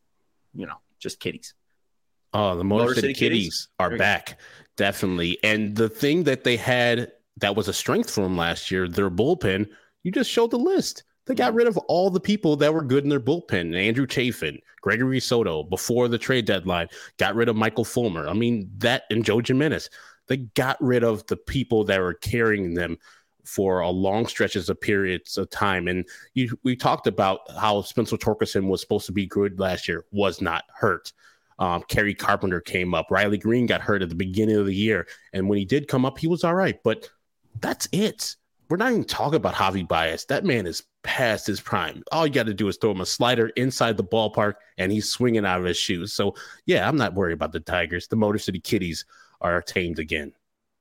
[SPEAKER 1] just kitties?
[SPEAKER 2] Oh, the Motor City Kitties are back. Definitely. And the thing that they had that was a strength for them last year, their bullpen, you just showed the list. They got rid of all the people that were good in their bullpen. Andrew Chafin, Gregory Soto, before the trade deadline, got rid of Michael Fulmer. I mean, that and Joe Jimenez. They got rid of the people that were carrying them for a long stretches of periods of time. And we talked about how Spencer Torkelson was supposed to be good last year, was not hurt. Kerry Carpenter came up. Riley Green got hurt at the beginning of the year. And when he did come up, he was all right. But that's it. We're not even talking about Javi Baez. That man is past his prime. All you got to do is throw him a slider inside the ballpark, and he's swinging out of his shoes. So, yeah, I'm not worried about the Tigers. The Motor City Kitties are tamed again.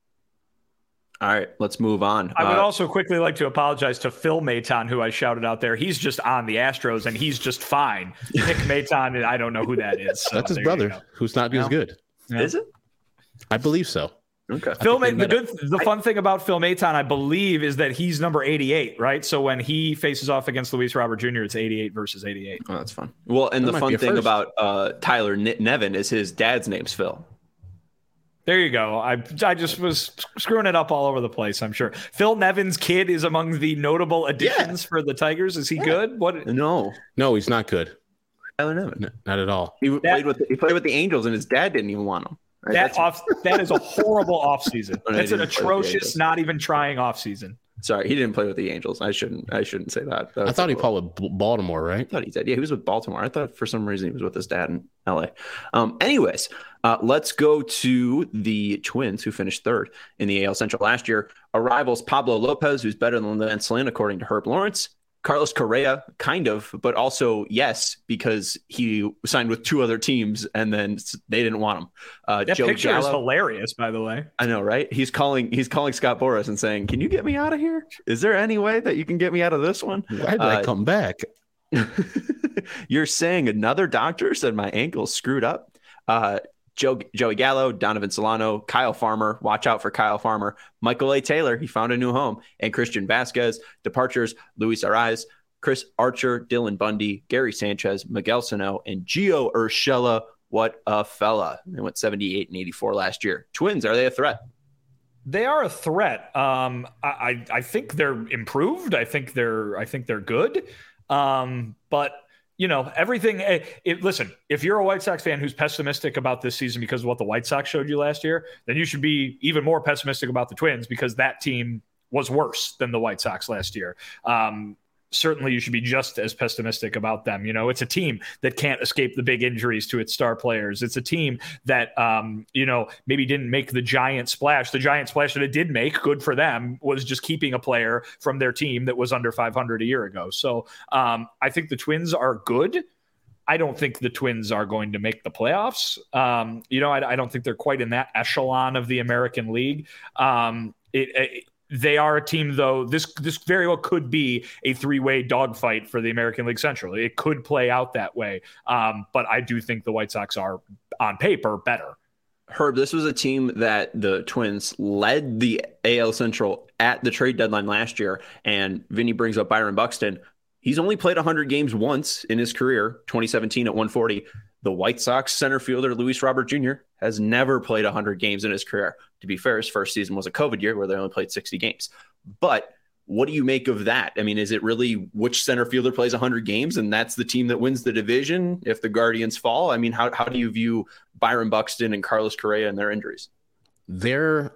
[SPEAKER 1] All right, let's move on.
[SPEAKER 3] I would also quickly like to apologize to Phil Maton, who I shouted out there. He's just on the Astros, and he's just fine. Nick Maton, I don't know who that is. So
[SPEAKER 2] that's his brother, who's not as good.
[SPEAKER 1] Yeah. Is it?
[SPEAKER 2] I believe so.
[SPEAKER 1] Okay.
[SPEAKER 3] The fun thing about Phil Maton, I believe, is that he's number 88, right? So when he faces off against Luis Robert Jr., it's 88 versus 88.
[SPEAKER 1] Oh, that's fun. Well, and the fun thing about Tyler Nevin is his dad's name's Phil.
[SPEAKER 3] There you go. I just was screwing it up all over the place, I'm sure. Phil Nevin's kid is among the notable additions for the Tigers. Is he good? What?
[SPEAKER 2] No, he's not good.
[SPEAKER 1] Tyler Nevin.
[SPEAKER 2] Not at all.
[SPEAKER 1] He played with the Angels, and his dad didn't even want him.
[SPEAKER 3] Right? That is a horrible offseason. That's an atrocious, not even trying offseason.
[SPEAKER 1] Sorry, he didn't play with the Angels. I shouldn't say that.
[SPEAKER 2] I thought he played with Baltimore, right?
[SPEAKER 1] I thought he did. Yeah, he was with Baltimore. I thought for some reason he was with his dad in LA. Anyways, let's go to the Twins, who finished third in the AL Central last year. Arrivals Pablo Lopez, who's better than Lance Lynn, according to Herb Lawrence. Carlos Correa, kind of, but also yes, because he signed with two other teams and then they didn't want him.
[SPEAKER 3] That
[SPEAKER 1] Joe
[SPEAKER 3] picture
[SPEAKER 1] Gallo,
[SPEAKER 3] is hilarious, by the way.
[SPEAKER 1] I know, right? He's calling Scott Boras and saying, "Can you get me out of here? Is there any way that you can get me out of this one?
[SPEAKER 2] Why did I come back?"
[SPEAKER 1] You're saying another doctor said my ankle's screwed up. Joey Gallo, Donovan Solano, Kyle Farmer, watch out for Kyle Farmer, Michael A. Taylor, he found a new home, and Christian Vasquez. Departures, Luis Arraez, Chris Archer, Dylan Bundy, Gary Sanchez, Miguel Sano, and Gio Urshela. What a fella. They went 78 and 84 last year. Twins, are they a threat?
[SPEAKER 3] They are a threat. I think they're improved. I think they're good. But everything. Listen, if you're a White Sox fan who's pessimistic about this season because of what the White Sox showed you last year, then you should be even more pessimistic about the Twins because that team was worse than the White Sox last year. certainly you should be just as pessimistic about them. You know, it's a team that can't escape the big injuries to its star players. It's a team that, maybe didn't make the giant splash. The giant splash that it did make, good for them, was just keeping a player from their team that was under 500 a year ago. So I think the Twins are good. I don't think the Twins are going to make the playoffs. I don't think they're quite in that echelon of the American League. They are a team, though. This very well could be a three-way dogfight for the American League Central. It could play out that way. But I do think the White Sox are, on paper, better.
[SPEAKER 1] Herb, this was a team that the Twins led the AL Central at the trade deadline last year. And Vinny brings up Byron Buxton. He's only played 100 games once in his career, 2017 at 140. The White Sox center fielder, Luis Robert Jr., has never played 100 games in his career. To be fair, his first season was a COVID year where they only played 60 games. But what do you make of that? I mean, is it really which center fielder plays 100 games and that's the team that wins the division if the Guardians fall? I mean, how do you view Byron Buxton and Carlos Correa and their injuries?
[SPEAKER 2] They're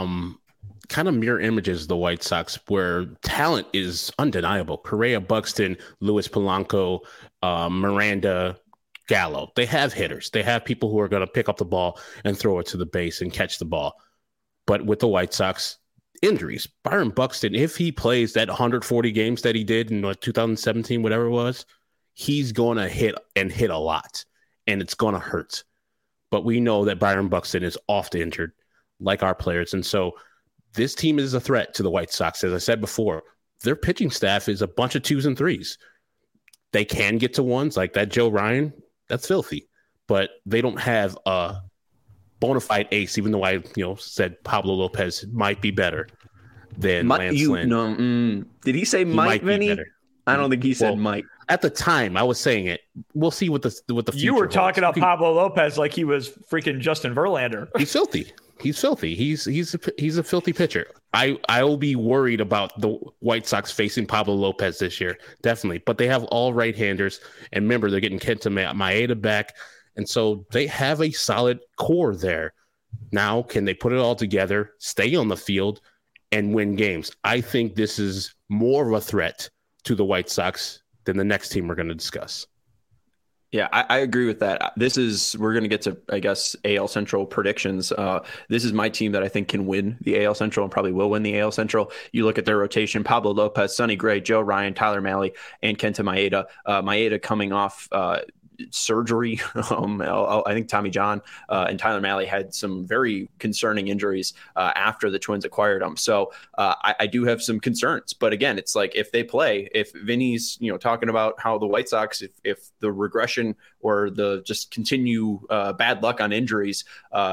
[SPEAKER 2] kind of mirror images of the White Sox, where talent is undeniable. Correa, Buxton, Luis Polanco, Miranda, Gallo. They have hitters. They have people who are going to pick up the ball and throw it to the base and catch the ball. But with the White Sox, injuries. Byron Buxton, if he plays that 140 games that he did in 2017, whatever it was, he's going to hit a lot, and it's going to hurt. But we know that Byron Buxton is often injured, like our players. And so this team is a threat to the White Sox. As I said before, their pitching staff is a bunch of 2s and 3s. They can get to 1s, like that Joe Ryan. That's filthy. But they don't have a bona fide ace, even though I said Pablo Lopez might be better than Lance Lynn.
[SPEAKER 1] Did he say Mike, Vinny? I don't think he said Mike.
[SPEAKER 2] At the time, I was saying it. We'll see what the future
[SPEAKER 3] You were
[SPEAKER 2] holds.
[SPEAKER 3] talking about Pablo Lopez like he was freaking Justin Verlander.
[SPEAKER 2] He's filthy. He's filthy. He's a filthy pitcher. I will be worried about the White Sox facing Pablo Lopez this year, definitely. But they have all right-handers, and remember, they're getting Kenta Maeda back, and so they have a solid core there. Now, can they put it all together, stay on the field, and win games? I think this is more of a threat to the White Sox than the next team we're going to discuss.
[SPEAKER 1] Yeah, I agree with that. We're going to get to, I guess, AL Central predictions. This is my team that I think can win the AL Central and probably will win the AL Central. You look at their rotation: Pablo Lopez, Sonny Gray, Joe Ryan, Tyler Mahle, and Kenta Maeda. Maeda coming off surgery. I think Tommy John and Tyler Mahle had some very concerning injuries after the Twins acquired them. So I do have some concerns. But again, it's like if they play, if Vinny's talking about how the White Sox, if the regression or the just continue bad luck on injuries,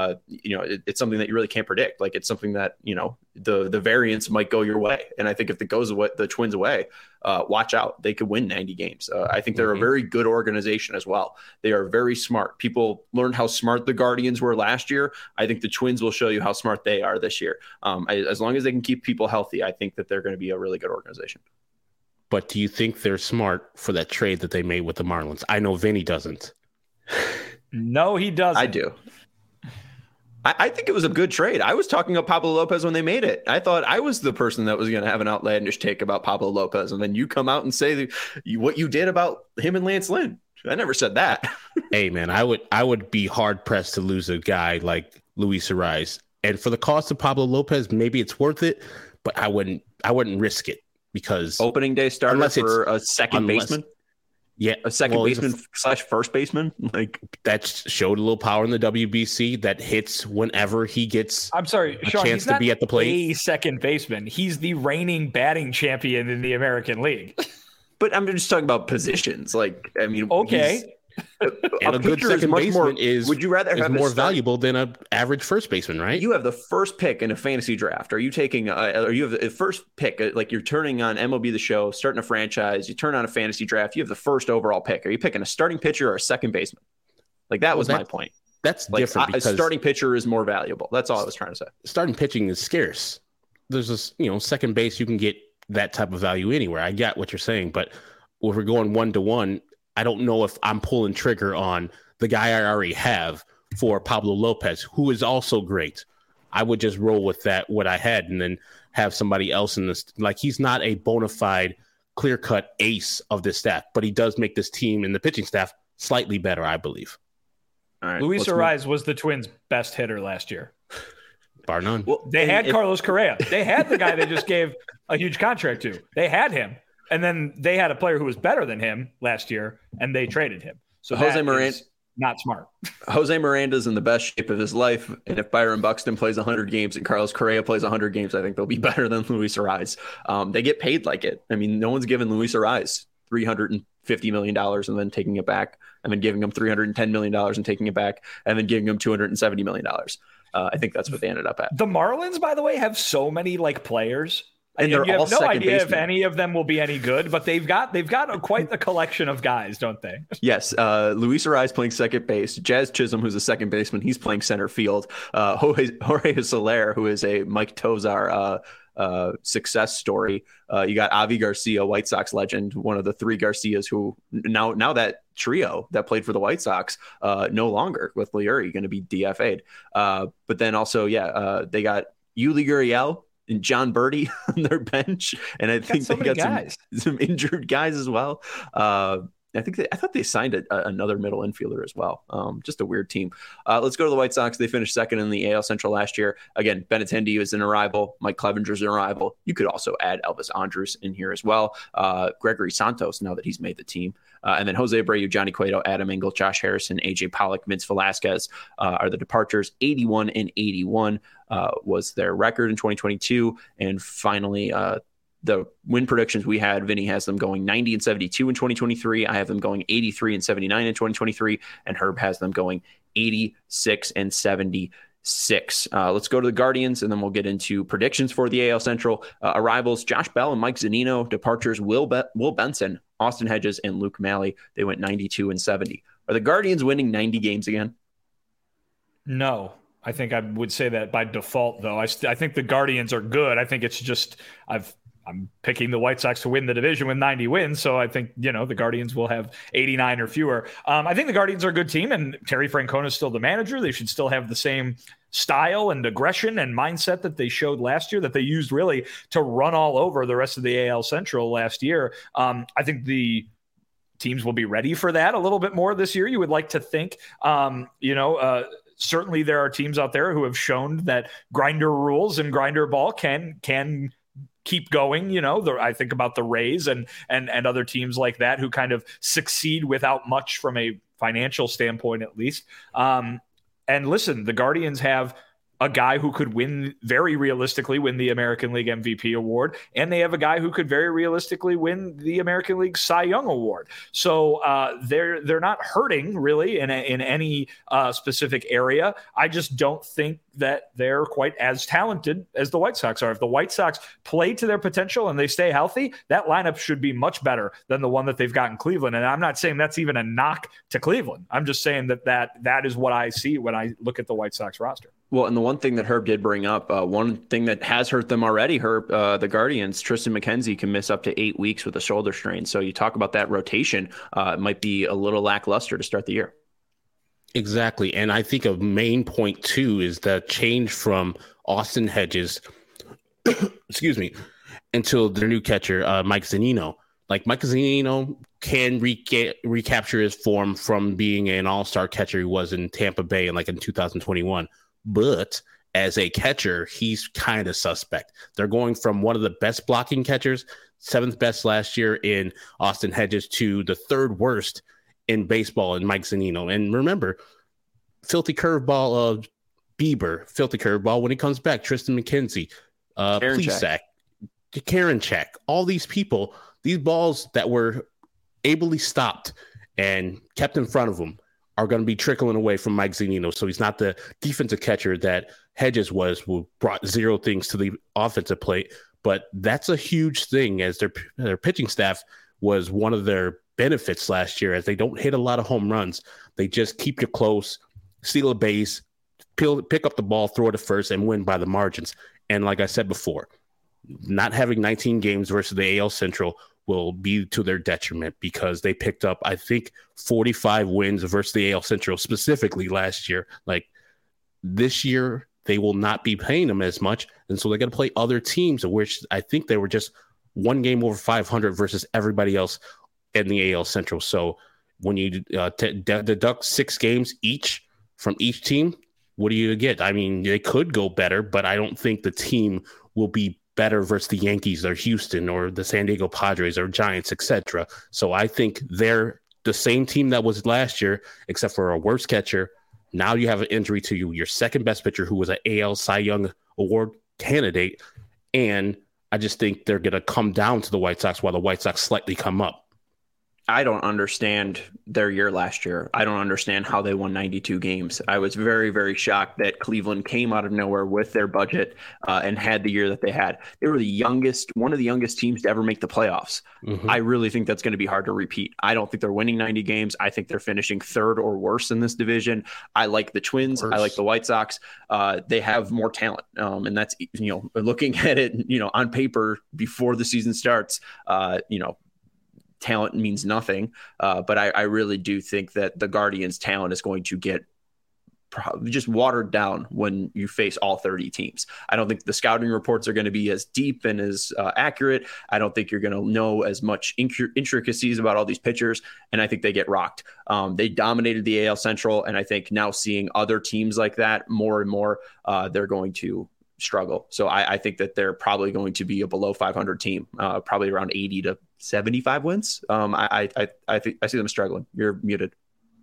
[SPEAKER 1] it's something that you really can't predict. Like it's something that the variance might go your way. And I think if it goes the Twins away, watch out. They could win 90 games. I think they're a very good organization as well. They are very smart. People learned how smart the Guardians were last year. I think the Twins will show you how smart they are this year. As long as they can keep people healthy, I think that they're going to be a really good organization.
[SPEAKER 2] But do you think they're smart for that trade that they made with the Marlins? I know Vinny doesn't.
[SPEAKER 3] No, he doesn't.
[SPEAKER 1] I do. I think it was a good trade. I was talking about Pablo Lopez when they made it. I thought I was the person that was going to have an outlandish take about Pablo Lopez. And then you come out and say what you did about him and Lance Lynn. I never said that.
[SPEAKER 2] Hey, man, I would be hard pressed to lose a guy like Luis Arraez. And for the cost of Pablo Lopez, maybe it's worth it, but I wouldn't risk it because
[SPEAKER 1] opening day starter for a second baseman.
[SPEAKER 2] Yeah,
[SPEAKER 1] a second baseman / first baseman, like
[SPEAKER 2] that showed a little power in the WBC that hits whenever he gets.
[SPEAKER 3] I'm sorry, Sean,
[SPEAKER 2] chance to be at the plate.
[SPEAKER 3] A second baseman. He's the reigning batting champion in the American League.
[SPEAKER 1] But I'm just talking about positions. Like, I mean,
[SPEAKER 2] okay. And a good second baseman is more valuable than an average first baseman, right?
[SPEAKER 1] You have the first pick in a fantasy draft. Are you taking or you have the first pick, like you're turning on MLB The Show, starting a franchise, you turn on a fantasy draft, you have the first overall pick. Are you picking a starting pitcher or a second baseman? Like that was my point.
[SPEAKER 2] That's like, different because
[SPEAKER 1] a starting pitcher is more valuable. That's all I was trying to say.
[SPEAKER 2] Starting pitching is scarce. There's this, second base, you can get that type of value anywhere. I get what you're saying, but if we're going 1-to-1, I don't know if I'm pulling trigger on the guy I already have for Pablo Lopez, who is also great. I would just roll with that, what I had, and then have somebody else in this. Like, he's not a bona fide clear-cut ace of this staff, but he does make this team and the pitching staff slightly better, I believe.
[SPEAKER 1] All right,
[SPEAKER 3] Luis Arraez was the Twins' best hitter last year.
[SPEAKER 2] Bar none.
[SPEAKER 3] Well, they had Carlos Correa. They had the guy they just gave a huge contract to. They had him. And then they had a player who was better than him last year, and they traded him. So
[SPEAKER 1] Jose Miranda,
[SPEAKER 3] not smart.
[SPEAKER 1] Jose Miranda's in the best shape of his life. And if Byron Buxton plays 100 games and Carlos Correa plays 100 games, I think they'll be better than Luis Arraez. They get paid like it. I mean, no one's given Luis Arraez $350 million and then taking it back, and then giving him $310 million and taking it back, and then giving him $270 million. I think that's what they ended up at.
[SPEAKER 3] The Marlins, by the way, have so many players.
[SPEAKER 1] And they're
[SPEAKER 3] you
[SPEAKER 1] all
[SPEAKER 3] have no idea
[SPEAKER 1] baseman.
[SPEAKER 3] if any of them will be any good, but they've got quite the collection of guys, don't they?
[SPEAKER 1] Yes, Luis Arraez playing second base. Jazz Chisholm, who's a second baseman, he's playing center field. Jorge Soler, who is a Mike Tosar success story. You got Avi Garcia, White Sox legend, one of the three Garcias who now that trio that played for the White Sox no longer with Leury going to be DFA'd. But then also, they got Yuli Gurriel and John Birdie on their bench, and I think they got some injured guys as well. I thought they signed another middle infielder as well. Just a weird team. Let's go to the White Sox. They finished second in the AL Central last year. Again, Benintendi is an arrival. Mike Clevenger's an arrival. You could also add Elvis Andrus in here as well. Gregory Santos, now that he's made the team. And then Jose Abreu, Johnny Cueto, Adam Engel, Josh Harrison, AJ Pollock, Vince Velasquez are the departures. 81 and 81 was their record in 2022. And finally, the win predictions we had, Vinny has them going 90 and 72 in 2023. I have them going 83 and 79 in 2023. And Herb has them going 86 and 76. Let's go to the Guardians, and then we'll get into predictions for the AL Central. Arrivals, Josh Bell and Mike Zunino. Departures, Will Benson, Austin Hedges, and Luke Malley. They went 92 and 70. Are the Guardians winning 90 games again?
[SPEAKER 3] No. I think I would say that by default, though. I think the Guardians are good. I think it's just I'm picking the White Sox to win the division with 90 wins. So I think, the Guardians will have 89 or fewer. I think the Guardians are a good team, and Terry Francona is still the manager. They should still have the same style and aggression and mindset that they showed last year, that they used really to run all over the rest of the AL Central last year. I think the teams will be ready for that a little bit more this year. You would like to think, certainly there are teams out there who have shown that grinder rules and grinder ball can keep going. I think about the Rays and other teams like that who kind of succeed without much from a financial standpoint, at least. And listen, the Guardians have a guy who could very realistically win the American League MVP award, and they have a guy who could very realistically win the American League Cy Young award. So they're not hurting really in any specific area. I just don't think that they're quite as talented as the White Sox are. If the White Sox play to their potential and they stay healthy, that lineup should be much better than the one that they've got in Cleveland. And I'm not saying that's even a knock to Cleveland. I'm just saying that is what I see when I look at the White Sox roster.
[SPEAKER 1] Well, and the one thing that Herb did bring up, one thing that has hurt them already, Herb, the Guardians, Tristan McKenzie can miss up to 8 weeks with a shoulder strain. So you talk about that rotation, it might be a little lackluster to start the year.
[SPEAKER 2] Exactly. And I think a main point, too, is the change from Austin Hedges, excuse me, until their new catcher, Mike Zunino. Like, Mike Zunino can recapture his form from being an all-star catcher he was in Tampa Bay in 2021. But as a catcher, he's kind of suspect. They're going from one of the best blocking catchers, 7th best last year in Austin Hedges, to the 3rd worst in baseball in Mike Zunino. And remember, filthy curveball of Bieber, filthy curveball when he comes back, Tristan McKenzie, Plesac, Karinchak, all these people, these balls that were ably stopped and kept in front of him are going to be trickling away from Mike Zunino. So he's not the defensive catcher that Hedges was, who brought 0 things to the offensive plate. But that's a huge thing, as their pitching staff was one of their benefits last year, as they don't hit a lot of home runs. They just keep you close, steal a base, pick up the ball, throw it to first, and win by the margins. And like I said before, not having 19 games versus the AL Central will be to their detriment, because they picked up, I think, 45 wins versus the AL Central specifically last year. Like, this year, they will not be paying them as much, and so they got to play other teams, which I think they were just one game over 500 versus everybody else in the AL Central. So when you deduct 6 games each from each team, what do you get? I mean, they could go better, but I don't think the team will be better versus the Yankees or Houston or the San Diego Padres or Giants, etc. So I think they're the same team that was last year, except for a worse catcher. Now you have an injury to your second best pitcher, who was an AL Cy Young Award candidate. And I just think they're going to come down to the White Sox while the White Sox slightly come up.
[SPEAKER 1] I don't understand their year last year. I don't understand how they won 92 games. I was very, very shocked that Cleveland came out of nowhere with their budget and had the year that they had. They were one of the youngest teams to ever make the playoffs. Mm-hmm. I really think that's going to be hard to repeat. I don't think they're winning 90 games. I think they're finishing third or worse in this division. I like the Twins. Worse. I like the White Sox. They have more talent. And that's, looking at it, on paper before the season starts, talent means nothing, but I really do think that the Guardians' talent is going to get just watered down when you face all 30 teams. I don't think the scouting reports are going to be as deep and as accurate. I don't think you're going to know as much intricacies about all these pitchers, and I think they get rocked. They dominated the AL Central, and I think now seeing other teams like that more and more, they're going to struggle. So I think that they're probably going to be a below 500 team, probably around 80 to 75 wins. I think I see them struggling. You're muted.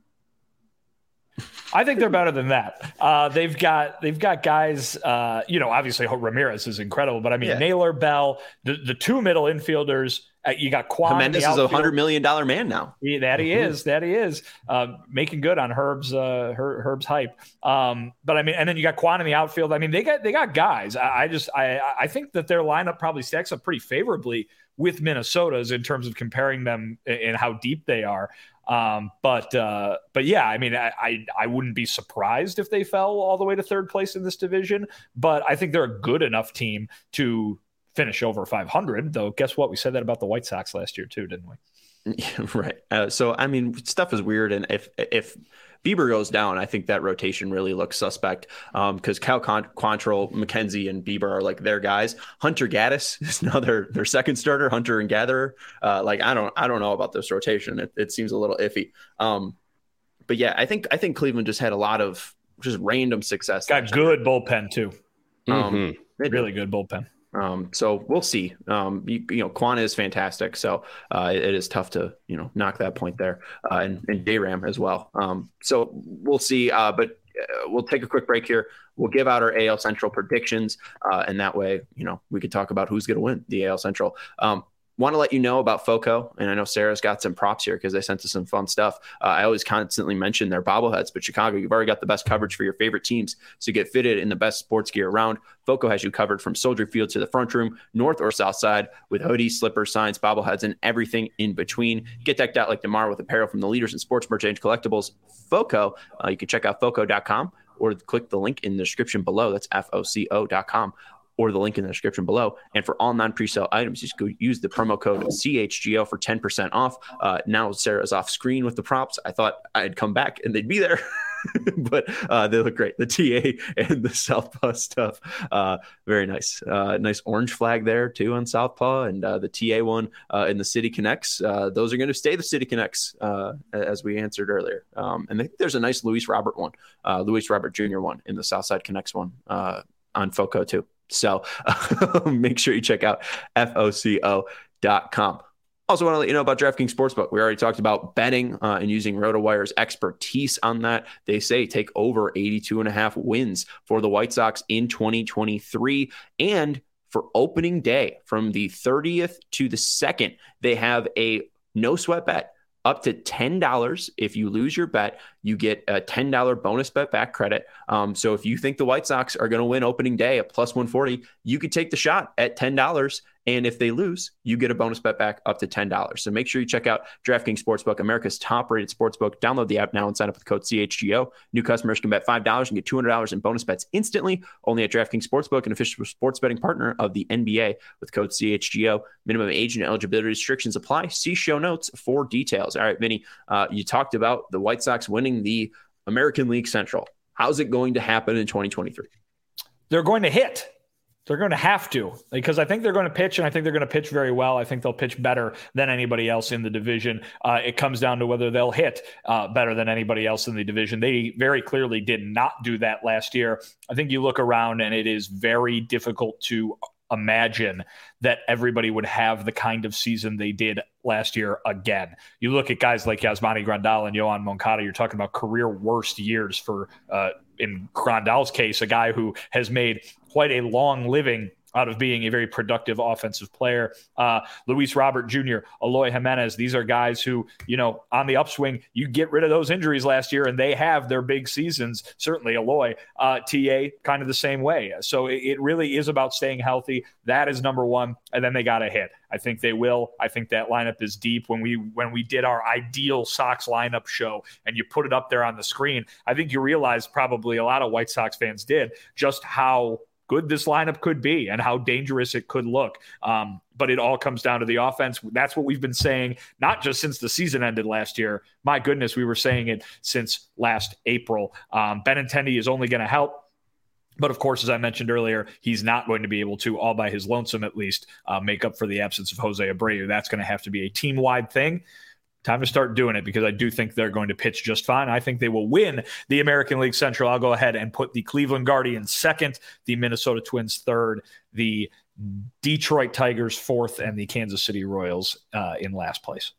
[SPEAKER 3] I think they're better than that. They've got guys. Obviously Ramirez is incredible, but I mean Naylor, Bell, the 2 middle infielders. You got Kwan.
[SPEAKER 1] Jimenez is $100 million man now.
[SPEAKER 3] He is making good on Herb's hype. But I mean, and then you got Kwan in the outfield. I mean, they got guys. I think that their lineup probably stacks up pretty favorably with Minnesota's in terms of comparing them and how deep they are. But yeah, I mean, I wouldn't be surprised if they fell all the way to third place in this division, but I think they're a good enough team to finish over 500, though. Guess what? We said that about the White Sox last year too, didn't we?
[SPEAKER 1] Yeah, right. So, I mean, stuff is weird. And if Bieber goes down, I think that rotation really looks suspect because Cal Quantrill, McKenzie, and Bieber are like their guys. Hunter Gaddis is now their second starter, Hunter and Gatherer. I don't know about this rotation. It seems a little iffy. But yeah, I think Cleveland just had a lot of just random success.
[SPEAKER 3] Got good bullpen too. Really good bullpen.
[SPEAKER 1] So we'll see. Quan is fantastic. So it is tough to, knock that point there. And J-Ram as well. So we'll see. But we'll take a quick break here. We'll give out our AL Central predictions. And that way, we could talk about who's going to win the AL Central. Want to let you know about FOCO, and I know Sarah's got some props here because they sent us some fun stuff. I always constantly mention their bobbleheads, but Chicago, you've already got the best coverage for your favorite teams. So get fitted in the best sports gear around. FOCO has you covered from Soldier Field to the front room, north or south side, with hoodies, slippers, signs, bobbleheads, and everything in between. Get decked out like DeMar with apparel from the leaders in sports merch and collectibles. FOCO, you can check out FOCO.com or click the link in the description below. That's FOCO.com. Or the link in the description below. And for all non-presale items, just go use the promo code CHGO for 10% off. Now Sarah's off screen with the props. I thought I'd come back and they'd be there, but they look great. The TA and the Southpaw stuff, very nice. Nice orange flag there too on Southpaw, and the TA one in the City Connects. Those are going to stay the City Connects, as we answered earlier. And I think there's a nice Luis Robert Jr. one in the Southside Connects one on FOCO too. So make sure you check out FOCO.com. Also want to let you know about DraftKings Sportsbook. We already talked about betting and using RotoWire's expertise on that. They say take over 82.5 wins for the White Sox in 2023. And for opening day from the 30th to the 2nd, they have a no sweat bet. Up to $10. If you lose your bet, you get a $10 bonus bet back credit. So if you think the White Sox are going to win opening day at plus 140, you could take the shot at $10. And if they lose, you get a bonus bet back up to $10. So make sure you check out DraftKings Sportsbook, America's top-rated sportsbook. Download the app now and sign up with the code CHGO. New customers can bet $5 and get $200 in bonus bets instantly. Only at DraftKings Sportsbook, an official sports betting partner of the NBA, with code CHGO. Minimum age and eligibility restrictions apply. See show notes for details. All right, Vinny, you talked about the White Sox winning the American League Central. How's it going to happen in 2023?
[SPEAKER 3] They're going to hit. They're going to have to, because I think they're going to pitch, and I think they're going to pitch very well. I think they'll pitch better than anybody else in the division. It comes down to whether they'll hit better than anybody else in the division. They very clearly did not do that last year. I think you look around, and it is very difficult to imagine that everybody would have the kind of season they did last year again. You look at guys like Yasmani Grandal and Yoan Moncada, you're talking about career worst years for, in Grandal's case, a guy who has made quite a long living out of being a very productive offensive player. Luis Robert Jr., Eloy Jimenez, these are guys who, on the upswing, you get rid of those injuries last year and they have their big seasons. Certainly Eloy, TA, kind of the same way. So it really is about staying healthy. That is number one. And then they got to hit. I think they will. I think that lineup is deep. When we did our ideal Sox lineup show and you put it up there on the screen, I think you realized, probably a lot of White Sox fans did, just how good this lineup could be and how dangerous it could look. But it all comes down to the offense. That's what we've been saying, not just since the season ended last year. My goodness, we were saying it since last April. Benintendi is only going to help. But of course, as I mentioned earlier, he's not going to be able to, all by his lonesome at least, make up for the absence of Jose Abreu. That's going to have to be a team-wide thing. Time to start doing it, because I do think they're going to pitch just fine. I think they will win the American League Central. I'll go ahead and put the Cleveland Guardians second, the Minnesota Twins third, the Detroit Tigers fourth, and the Kansas City Royals in last place.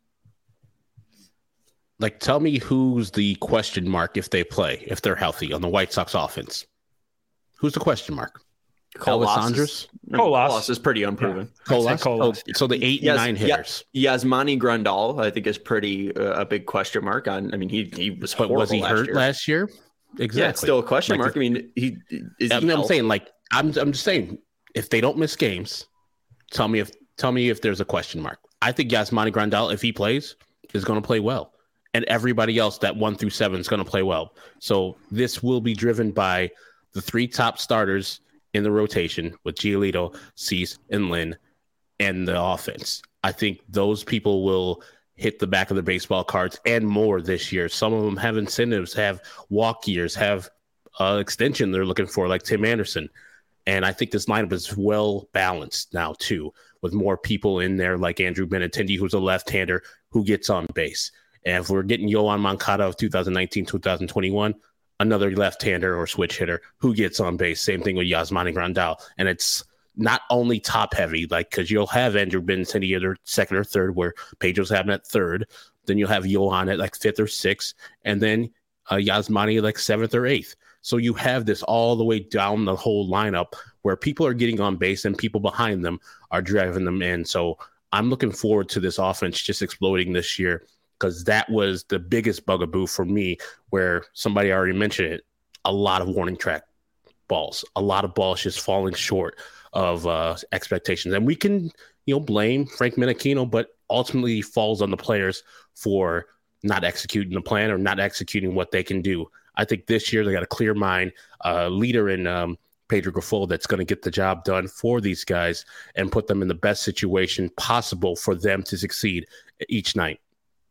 [SPEAKER 2] Like, tell me who's the question mark if they play, if they're healthy on the White Sox offense. Who's the question mark?
[SPEAKER 1] Colas is pretty unproven.
[SPEAKER 2] Colas. So the 8 and 9 hitters.
[SPEAKER 1] Yasmani Grandal, I think, is pretty a big question mark on. I mean, he was horrible.
[SPEAKER 2] But was he hurt last year? Exactly.
[SPEAKER 1] Yeah, it's still a question mark. I mean,
[SPEAKER 2] I'm saying, like, I'm just saying, if they don't miss games, tell me if there's a question mark. I think Yasmani Grandal, if he plays, is going to play well, and everybody else that 1 through 7 is going to play well. So this will be driven by the 3 top starters in the rotation with Giolito, Cease, and Lynn, and the offense. I think those people will hit the back of the baseball cards and more this year. Some of them have incentives, have walk years, have extension they're looking for, like Tim Anderson. And I think this lineup is well balanced now, too, with more people in there like Andrew Benintendi, who's a left-hander who gets on base. And if we're getting Yoan Moncada of 2019, 2021, another left-hander or switch hitter who gets on base. Same thing with Yasmani Grandal. And it's not only top-heavy, like, because you'll have Andrew Benintendi either second or third, where Pedro's having at third. Then you'll have Yoan at like 5th or 6th, and then Yasmani like 7th or 8th. So you have this all the way down the whole lineup where people are getting on base and people behind them are driving them in. So I'm looking forward to this offense just exploding this year, because that was the biggest bugaboo for me, where somebody already mentioned it, a lot of warning track balls, a lot of balls just falling short of expectations. And we can, blame Frank Menachino, but ultimately he falls on the players for not executing the plan or not executing what they can do. I think this year they got a clear mind, leader in Pedro Grifol that's going to get the job done for these guys and put them in the best situation possible for them to succeed each night.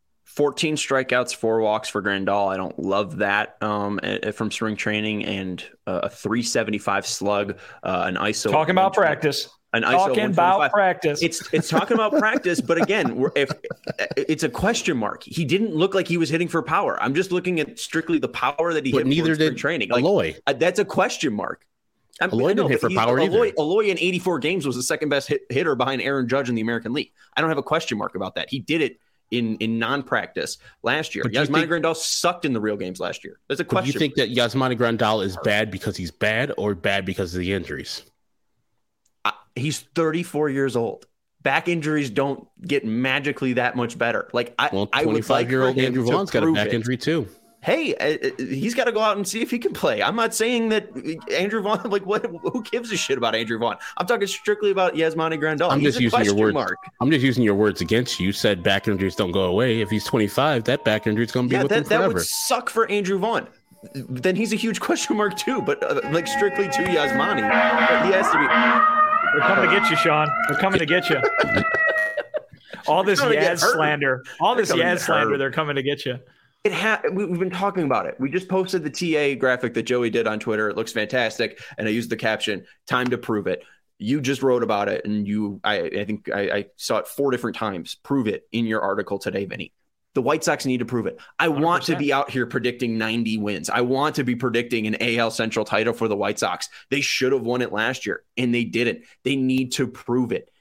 [SPEAKER 1] 14 strikeouts, 4 walks for Grandal. I don't love that from spring training, and a 375 slug, an ISO.
[SPEAKER 3] Talking about practice. Talking about practice.
[SPEAKER 1] It's talking about practice, but again, if it's a question mark. He didn't look like he was hitting for power. I'm just looking at strictly the power that he hit
[SPEAKER 2] neither
[SPEAKER 1] for spring training.
[SPEAKER 2] Eloy.
[SPEAKER 1] That's a question mark.
[SPEAKER 2] Eloy didn't hit for power either.
[SPEAKER 1] Eloy in 84 games was the second best hitter behind Aaron Judge in the American League. I don't have a question mark about that. He did it in non-practice last year. Yasmani Grandal sucked in the real games last year. There's a question.
[SPEAKER 2] Do you think that Yasmani Grandal is bad because he's bad, or bad because of the injuries?
[SPEAKER 1] He's 34 years old. Back injuries don't get magically that much better. Like, I would like
[SPEAKER 2] 25-year-old Andrew Vaughn's got a back injury too.
[SPEAKER 1] Hey, he's got to go out and see if he can play. I'm not saying that Andrew Vaughn, like, who gives a shit about Andrew Vaughn? I'm talking strictly about Yasmani Grandal.
[SPEAKER 2] I'm just using your words. I'm just using your words against you. You said back injuries don't go away. If he's 25, that back injury is going to be with him forever.
[SPEAKER 1] That would suck for Andrew Vaughn. Then he's a huge question mark too, but like strictly to Yasmani. But he has to be.
[SPEAKER 3] They're coming to get you, Sean. They're coming to get you. All this Yaz slander. All this Yaz slander, they're coming to get you.
[SPEAKER 1] We've been talking about it. We just posted the TA graphic that Joey did on Twitter. It looks fantastic. And I used the caption, "Time to prove it." You just wrote about it, and I think I saw it 4 different times. Prove it in your article today, Vinny. The White Sox need to prove it. I 100%. Want to be out here predicting 90 wins. I want to be predicting an AL Central title for the White Sox. They should have won it last year, and they didn't. They need to prove it.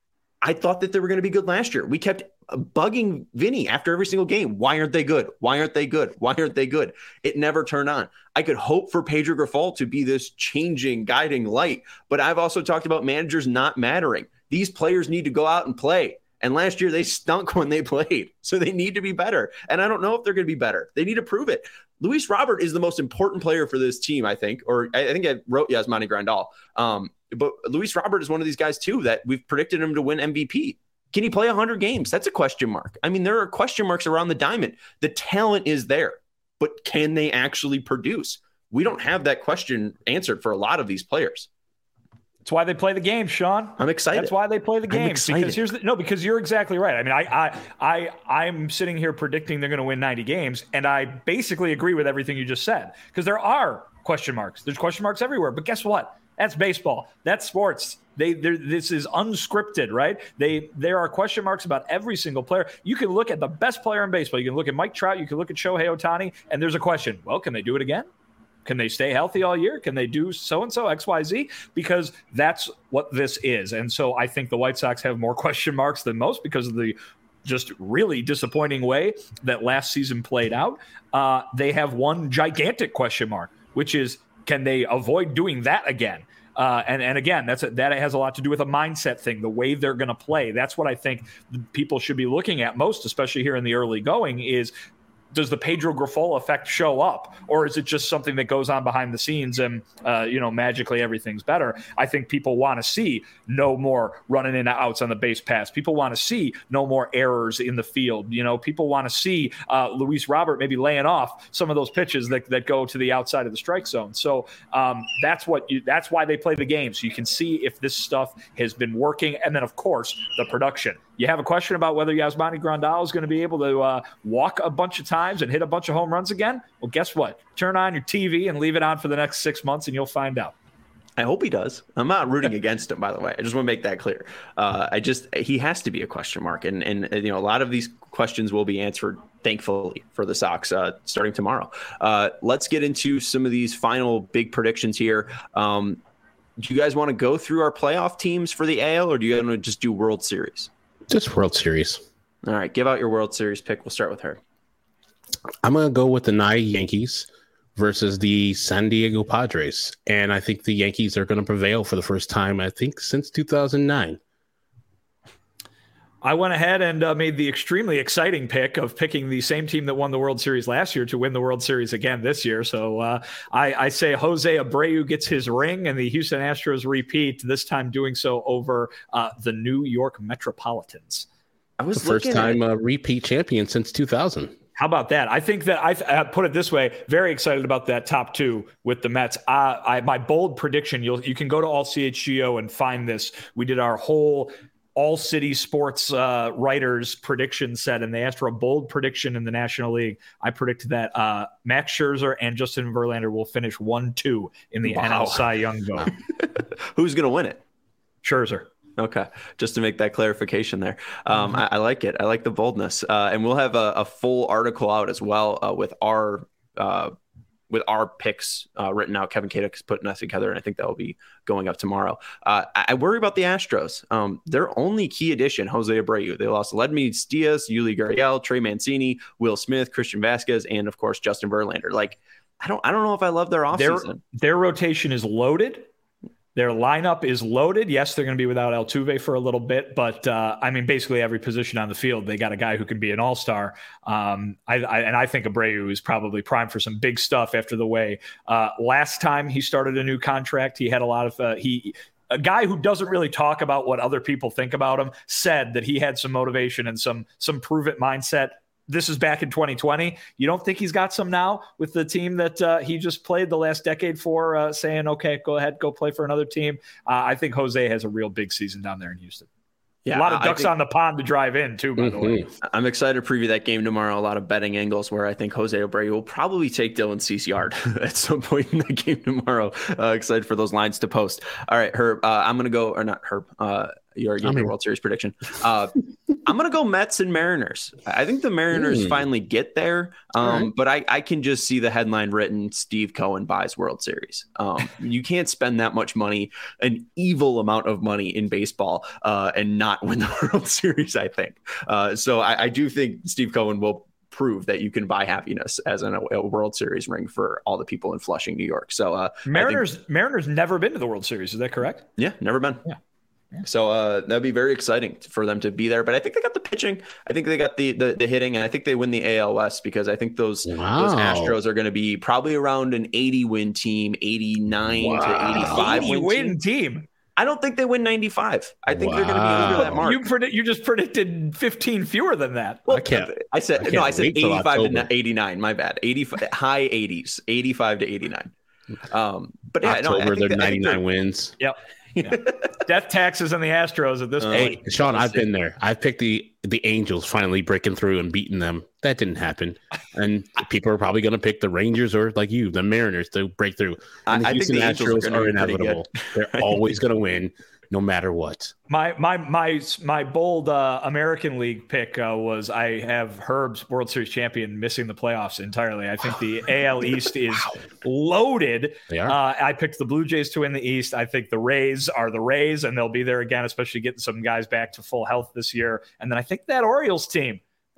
[SPEAKER 1] I thought that they were going to be good last year. We kept bugging Vinny after every single game. Why aren't they good? Why aren't they good? Why aren't they good? It never turned on. I could hope for Pedro Grifol to be this changing, guiding light, but I've also talked about managers not mattering. These players need to go out and play. And last year they stunk when they played, so they need to be better. And I don't know if they're going to be better. They need to prove it. Luis Robert is the most important player for this team, I think, or I think I wrote Yasmani Grandal. But Luis Robert is one of these guys too that we've predicted him to win MVP. Can he play 100 games? That's a question mark. I mean, there are question marks around the diamond. The talent is there, but can they actually produce? We don't have that question answered for a lot of these players.
[SPEAKER 3] That's why they play the game, Sean.
[SPEAKER 1] I'm excited.
[SPEAKER 3] That's why they play the game. Because you're exactly right. I mean, I'm sitting here predicting they're going to win 90 games, and I basically agree with everything you just said. Because there are question marks. There's question marks everywhere. But guess what? That's baseball. That's sports. This is unscripted, right? There are question marks about every single player. You can look at the best player in baseball. You can look at Mike Trout. You can look at Shohei Ohtani, and there's a question. Well, can they do it again? Can they stay healthy all year? Can they do so-and-so, XYZ? Because that's what this is. And so I think the White Sox have more question marks than most because of the just really disappointing way that last season played out. They have one gigantic question mark, which is, can they avoid doing that again? And again, that has a lot to do with a mindset thing, the way they're going to play. That's what I think people should be looking at most, especially here in the early going, is does the Pedro Grifol effect show up, or is it just something that goes on behind the scenes and, magically everything's better? I think people want to see no more running in and outs on the base pass. People want to see no more errors in the field. People want to see Luis Robert maybe laying off some of those pitches that go to the outside of the strike zone. So that's why they play the game. So you can see if this stuff has been working. And then, of course, the production. You have a question about whether Yasmani Grandal is going to be able to walk a bunch of times and hit a bunch of home runs again? Well, guess what? Turn on your TV and leave it on for the next 6 months, and you'll find out.
[SPEAKER 1] I hope he does. I'm not rooting against him, by the way. I just want to make that clear. He has to be a question mark, and a lot of these questions will be answered, thankfully, for the Sox starting tomorrow. Let's get into some of these final big predictions here. Do you guys want to go through our playoff teams for the AL, or do you want to just do World Series?
[SPEAKER 2] Just World Series.
[SPEAKER 1] All right, give out your World Series pick. We'll start with her.
[SPEAKER 2] I'm going to go with the NY Yankees versus the San Diego Padres. And I think the Yankees are going to prevail for the first time, I think, since 2009.
[SPEAKER 3] I went ahead and made the extremely exciting pick of picking the same team that won the World Series last year to win the World Series again this year. So I say Jose Abreu gets his ring and the Houston Astros repeat, this time doing so over the New York Metropolitans.
[SPEAKER 2] I was the first time repeat champion since 2000.
[SPEAKER 3] How about that? I think that I put it this way, very excited about that top two with the Mets. My bold prediction, you can go to All CHGO and find this. We did our whole All City Sports writers prediction set, and they asked for a bold prediction in the National League. I predicted that Max Scherzer and Justin Verlander will finish 1-2 in the NL Cy Young vote.
[SPEAKER 1] Who's going to win it?
[SPEAKER 3] Scherzer.
[SPEAKER 1] Okay, just to make that clarification there. I like it. I like the boldness. And we'll have a full article out as well with our picks written out. Kevin Kadek is putting us together, and I think that will be going up tomorrow. I worry about the Astros. Their only key addition, Jose Abreu. They lost Ledmead Diaz, Yuli Gurriel, Trey Mancini, Will Smith, Christian Vasquez, and of course Justin Verlander. Like, I don't know if I love their offseason.
[SPEAKER 3] Their rotation is loaded. Their lineup is loaded. Yes, they're going to be without Altuve for a little bit, but basically every position on the field, they got a guy who can be an all-star. I think Abreu is probably primed for some big stuff after the way last time he started a new contract. He had a lot of a guy who doesn't really talk about what other people think about him said that he had some motivation and some prove it mindset. This is back in 2020. You don't think he's got some now with the team that he just played the last decade for, saying, okay, go ahead, go play for another team. I think Jose has a real big season down there in Houston. A lot of ducks on the pond to drive in, too, by the way.
[SPEAKER 1] I'm excited to preview that game tomorrow. A lot of betting angles where I think Jose Abreu will probably take Dylan Cease yard at some point in that game tomorrow. Excited for those lines to post. All right, Herb, I'm going to go, or not Herb, your World Series prediction. I'm going to go Mets and Mariners. I think the Mariners finally get there, but I can just see the headline written, Steve Cohen buys World Series. You can't spend that much money, an evil amount of money in baseball, and not win the World Series, I think. So I do think Steve Cohen will prove that you can buy happiness as a World Series ring for all the people in Flushing, New York. So
[SPEAKER 3] Mariners never been to the World Series. Is that correct?
[SPEAKER 1] Yeah, never been. Yeah. So that'd be very exciting for them to be there. But I think they got the pitching. I think they got the hitting, and I think they win the AL West because I think those Astros are going to be probably around an 80 win team, 89 to 85 win team. I don't think they win 95. I think they're going to be under that mark.
[SPEAKER 3] You just predicted 15 fewer than that.
[SPEAKER 1] Well, I said 85 to 89. My bad. 85 high 80s, 85 to 89. But yeah,
[SPEAKER 2] October, they're 99 wins.
[SPEAKER 3] Yep. Yeah. Death taxes on the Astros at this point.
[SPEAKER 2] Hey, Sean, I've been there. I've picked the Angels finally breaking through and beating them. That didn't happen. And people are probably going to pick the Rangers or, like you, the Mariners to break through. And the Houston Astros are inevitable. They're always going to win no matter what.
[SPEAKER 3] My bold American League pick was I have Herb's World Series champion missing the playoffs entirely. I think the AL East is loaded.
[SPEAKER 2] They are.
[SPEAKER 3] I picked the Blue Jays to win the East. I think the Rays are the Rays, and they'll be there again, especially getting some guys back to full health this year. And then I think that Orioles team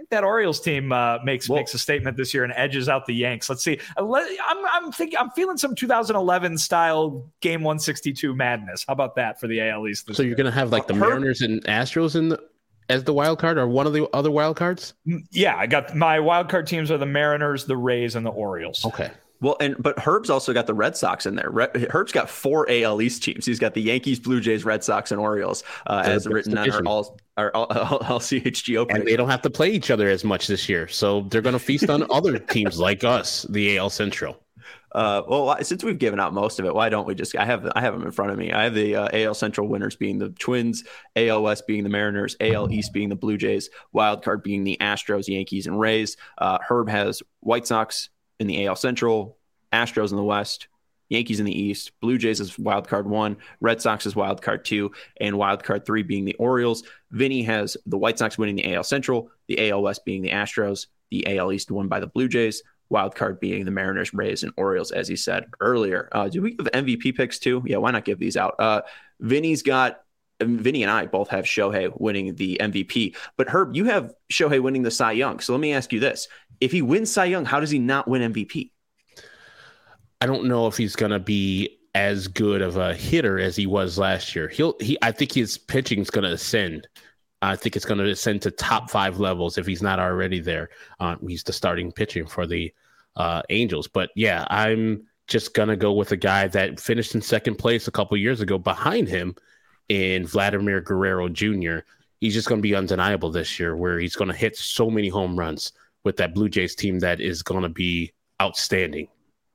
[SPEAKER 3] makes a statement this year and edges out the Yanks. Let's see. I'm feeling some 2011 style game 162 madness. How about that for the AL East?
[SPEAKER 2] So you're going to have like the Mariners and Astros as the wild card, or one of the other wild cards?
[SPEAKER 3] Yeah, I got my wild card teams are the Mariners, the Rays, and the Orioles.
[SPEAKER 2] Okay.
[SPEAKER 1] Well, but Herb's also got the Red Sox in there. Herb's got 4 AL East teams. He's got the Yankees, Blue Jays, Red Sox, and Orioles as written on our all CHGO.
[SPEAKER 2] And they don't have to play each other as much this year, so they're going to feast on other teams like us, the AL Central.
[SPEAKER 1] Well, since we've given out most of it, why don't we just? I have them in front of me. I have the AL Central winners being the Twins, AL West being the Mariners, AL East being the Blue Jays, wild card being the Astros, Yankees, and Rays. Herb has White Sox in the AL Central, Astros in the West, Yankees in the East, Blue Jays is wild card 1, Red Sox is wild card 2, and wild card 3 being the Orioles. Vinny has the White Sox winning the AL Central, the AL West being the Astros, the AL East won by the Blue Jays, wild card being the Mariners, Rays, and Orioles, as he said earlier. Do we give MVP picks too? Yeah, why not give these out? Vinny and I both have Shohei winning the MVP, but Herb, you have Shohei winning the Cy Young. So let me ask you this. If he wins Cy Young, how does he not win MVP?
[SPEAKER 2] I don't know if he's going to be as good of a hitter as he was last year. I think his pitching is going to ascend. I think it's going to ascend to top 5 levels if he's not already there. He's the starting pitching for the Angels. But yeah, I'm just going to go with a guy that finished in second place a couple years ago behind him in Vladimir Guerrero Jr. He's just going to be undeniable this year, where he's going to hit so many home runs with that Blue Jays team that is going to be outstanding.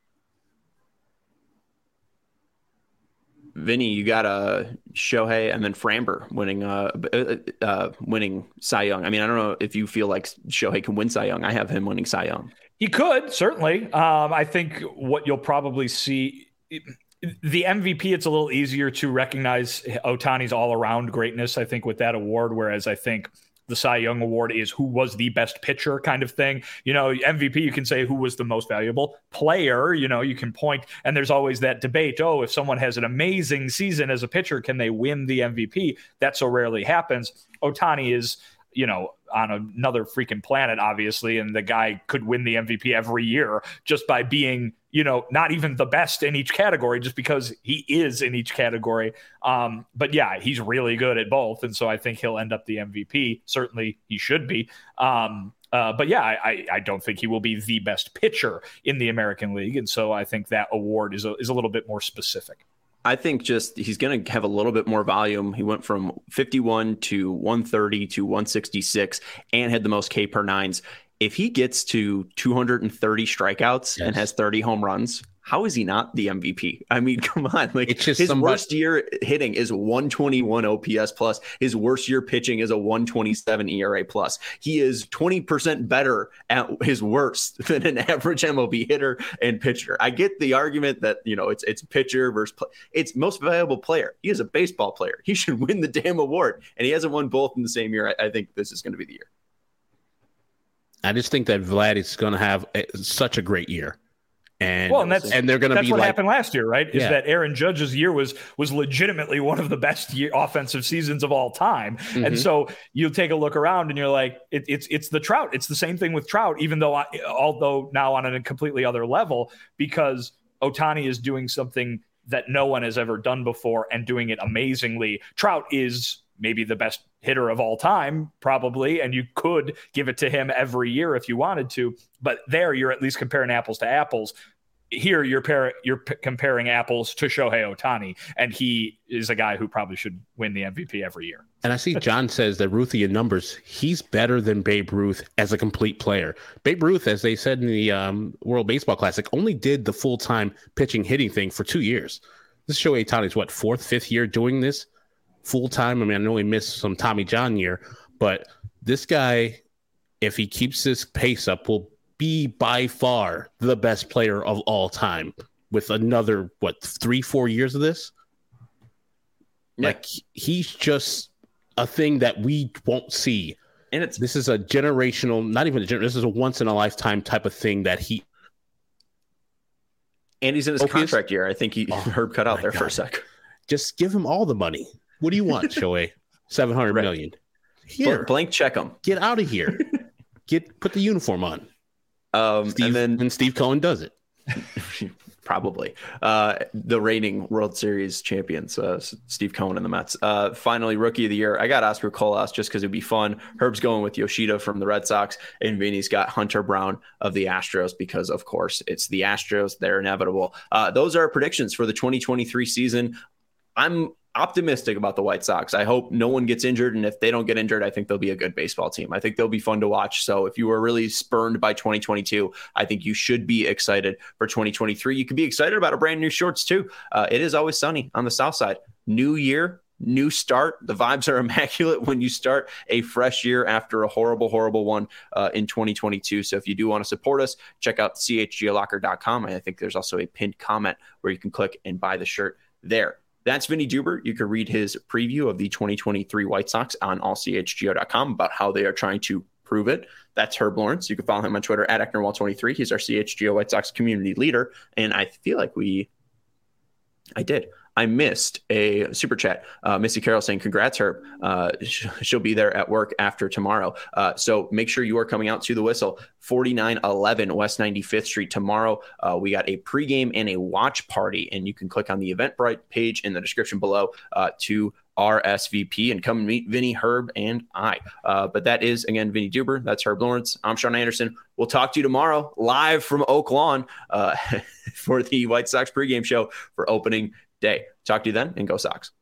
[SPEAKER 1] Vinny, you got Shohei and then Framber winning Cy Young. I mean, I don't know if you feel like Shohei can win Cy Young. I have him winning Cy Young.
[SPEAKER 3] He could, certainly. I think what you'll probably see, the MVP, it's a little easier to recognize Ohtani's all-around greatness, I think, with that award, whereas I think the Cy Young Award is who was the best pitcher kind of thing. You know, MVP, you can say who was the most valuable player, you know, you can point, and there's always that debate. Oh, if someone has an amazing season as a pitcher, can they win the MVP? That so rarely happens. Ohtani is, you know, on another freaking planet, obviously, and the guy could win the MVP every year just by being, you know, not even the best in each category, just because he is in each category. But yeah, he's really good at both. And so I think he'll end up the MVP. Certainly he should be. But yeah, I don't think he will be the best pitcher in the American League. And so I think that award is a little bit more specific.
[SPEAKER 1] I think just he's going to have a little bit more volume. He went from 51 to 130 to 166 and had the most K per nines. If he gets to 230 strikeouts and has 30 home runs, how is he not the MVP? I mean, come on. Like,
[SPEAKER 2] it's just
[SPEAKER 1] his worst year hitting is 121 OPS plus. His worst year pitching is a 127 ERA plus. He is 20% better at his worst than an average MLB hitter and pitcher. I get the argument that, it's pitcher versus it's most valuable player. He is a baseball player. He should win the damn award. And he hasn't won both in the same year. I think this is going to be the year.
[SPEAKER 2] I just think that Vlad is going to have such a great year. And they're going to be
[SPEAKER 3] what
[SPEAKER 2] like,
[SPEAKER 3] happened last year, right? Is that Aaron Judge's year was legitimately one of the best offensive seasons of all time. Mm-hmm. And so you take a look around and you're like, it's the Trout. It's the same thing with Trout, although now on a completely other level, because Ohtani is doing something that no one has ever done before and doing it amazingly. Trout is maybe the best hitter of all time, probably, and you could give it to him every year if you wanted to. But there, you're at least comparing apples to apples. Here, you're comparing apples to Shohei Ohtani, and he is a guy who probably should win the MVP every year.
[SPEAKER 2] And I see John says that Ruthie in numbers, he's better than Babe Ruth as a complete player. Babe Ruth, as they said in the World Baseball Classic, only did the full-time pitching hitting thing for 2 years. This Shohei Ohtani's what, 4th, 5th year doing this full-time? I mean, I know he missed some Tommy John year, but this guy, if he keeps this pace up, will be by far the best player of all time with another, 3-4 years of this? Yeah. Like, he's just a thing that we won't see. And this is a generational, not even this is a once-in-a-lifetime type of thing that he...
[SPEAKER 1] And he's in his contract year. I think Herb cut out there for a sec.
[SPEAKER 2] Just give him all the money. What do you want, Shohei? $700 million. Here,
[SPEAKER 1] blank check him.
[SPEAKER 2] Get out of here. Put the uniform on. And Steve Cohen does it.
[SPEAKER 1] Probably. The reigning World Series champions, Steve Cohen and the Mets. Finally, Rookie of the Year. I got Oscar Colas just because it'd be fun. Herb's going with Yoshida from the Red Sox, and Vinny's got Hunter Brown of the Astros because, of course, it's the Astros. They're inevitable. Those are our predictions for the 2023 season. I'm optimistic about the White Sox. I hope no one gets injured, and if they don't get injured, I think they'll be a good baseball team. I think they'll be fun to watch. So if you were really spurned by 2022, I think you should be excited for 2023. You could be excited about a brand new shorts too. It is always sunny on the south side. New year, new start. The vibes are immaculate when you start a fresh year after a horrible one in 2022. So if you do want to support us, check out chglocker.com. And I think there's also a pinned comment where you can click and buy the shirt there. That's Vinny Duber. You can read his preview of the 2023 White Sox on allchgo.com about how they are trying to prove it. That's Herb Lawrence. You can follow him on Twitter at EcknerWall23. He's our CHGO White Sox community leader. And I feel like I missed a super chat. Missy Carroll saying, congrats, Herb. She'll be there at work after tomorrow. So make sure you are coming out to the Whistle, 4911 West 95th Street tomorrow. We got a pregame and a watch party, and you can click on the Eventbrite page in the description below to RSVP and come and meet Vinny, Herb, and I. But that is, again, Vinny Duber. That's Herb Lawrence. I'm Sean Anderson. We'll talk to you tomorrow live from Oak Lawn for the White Sox pregame show for opening day. Talk to you then, and go Sox.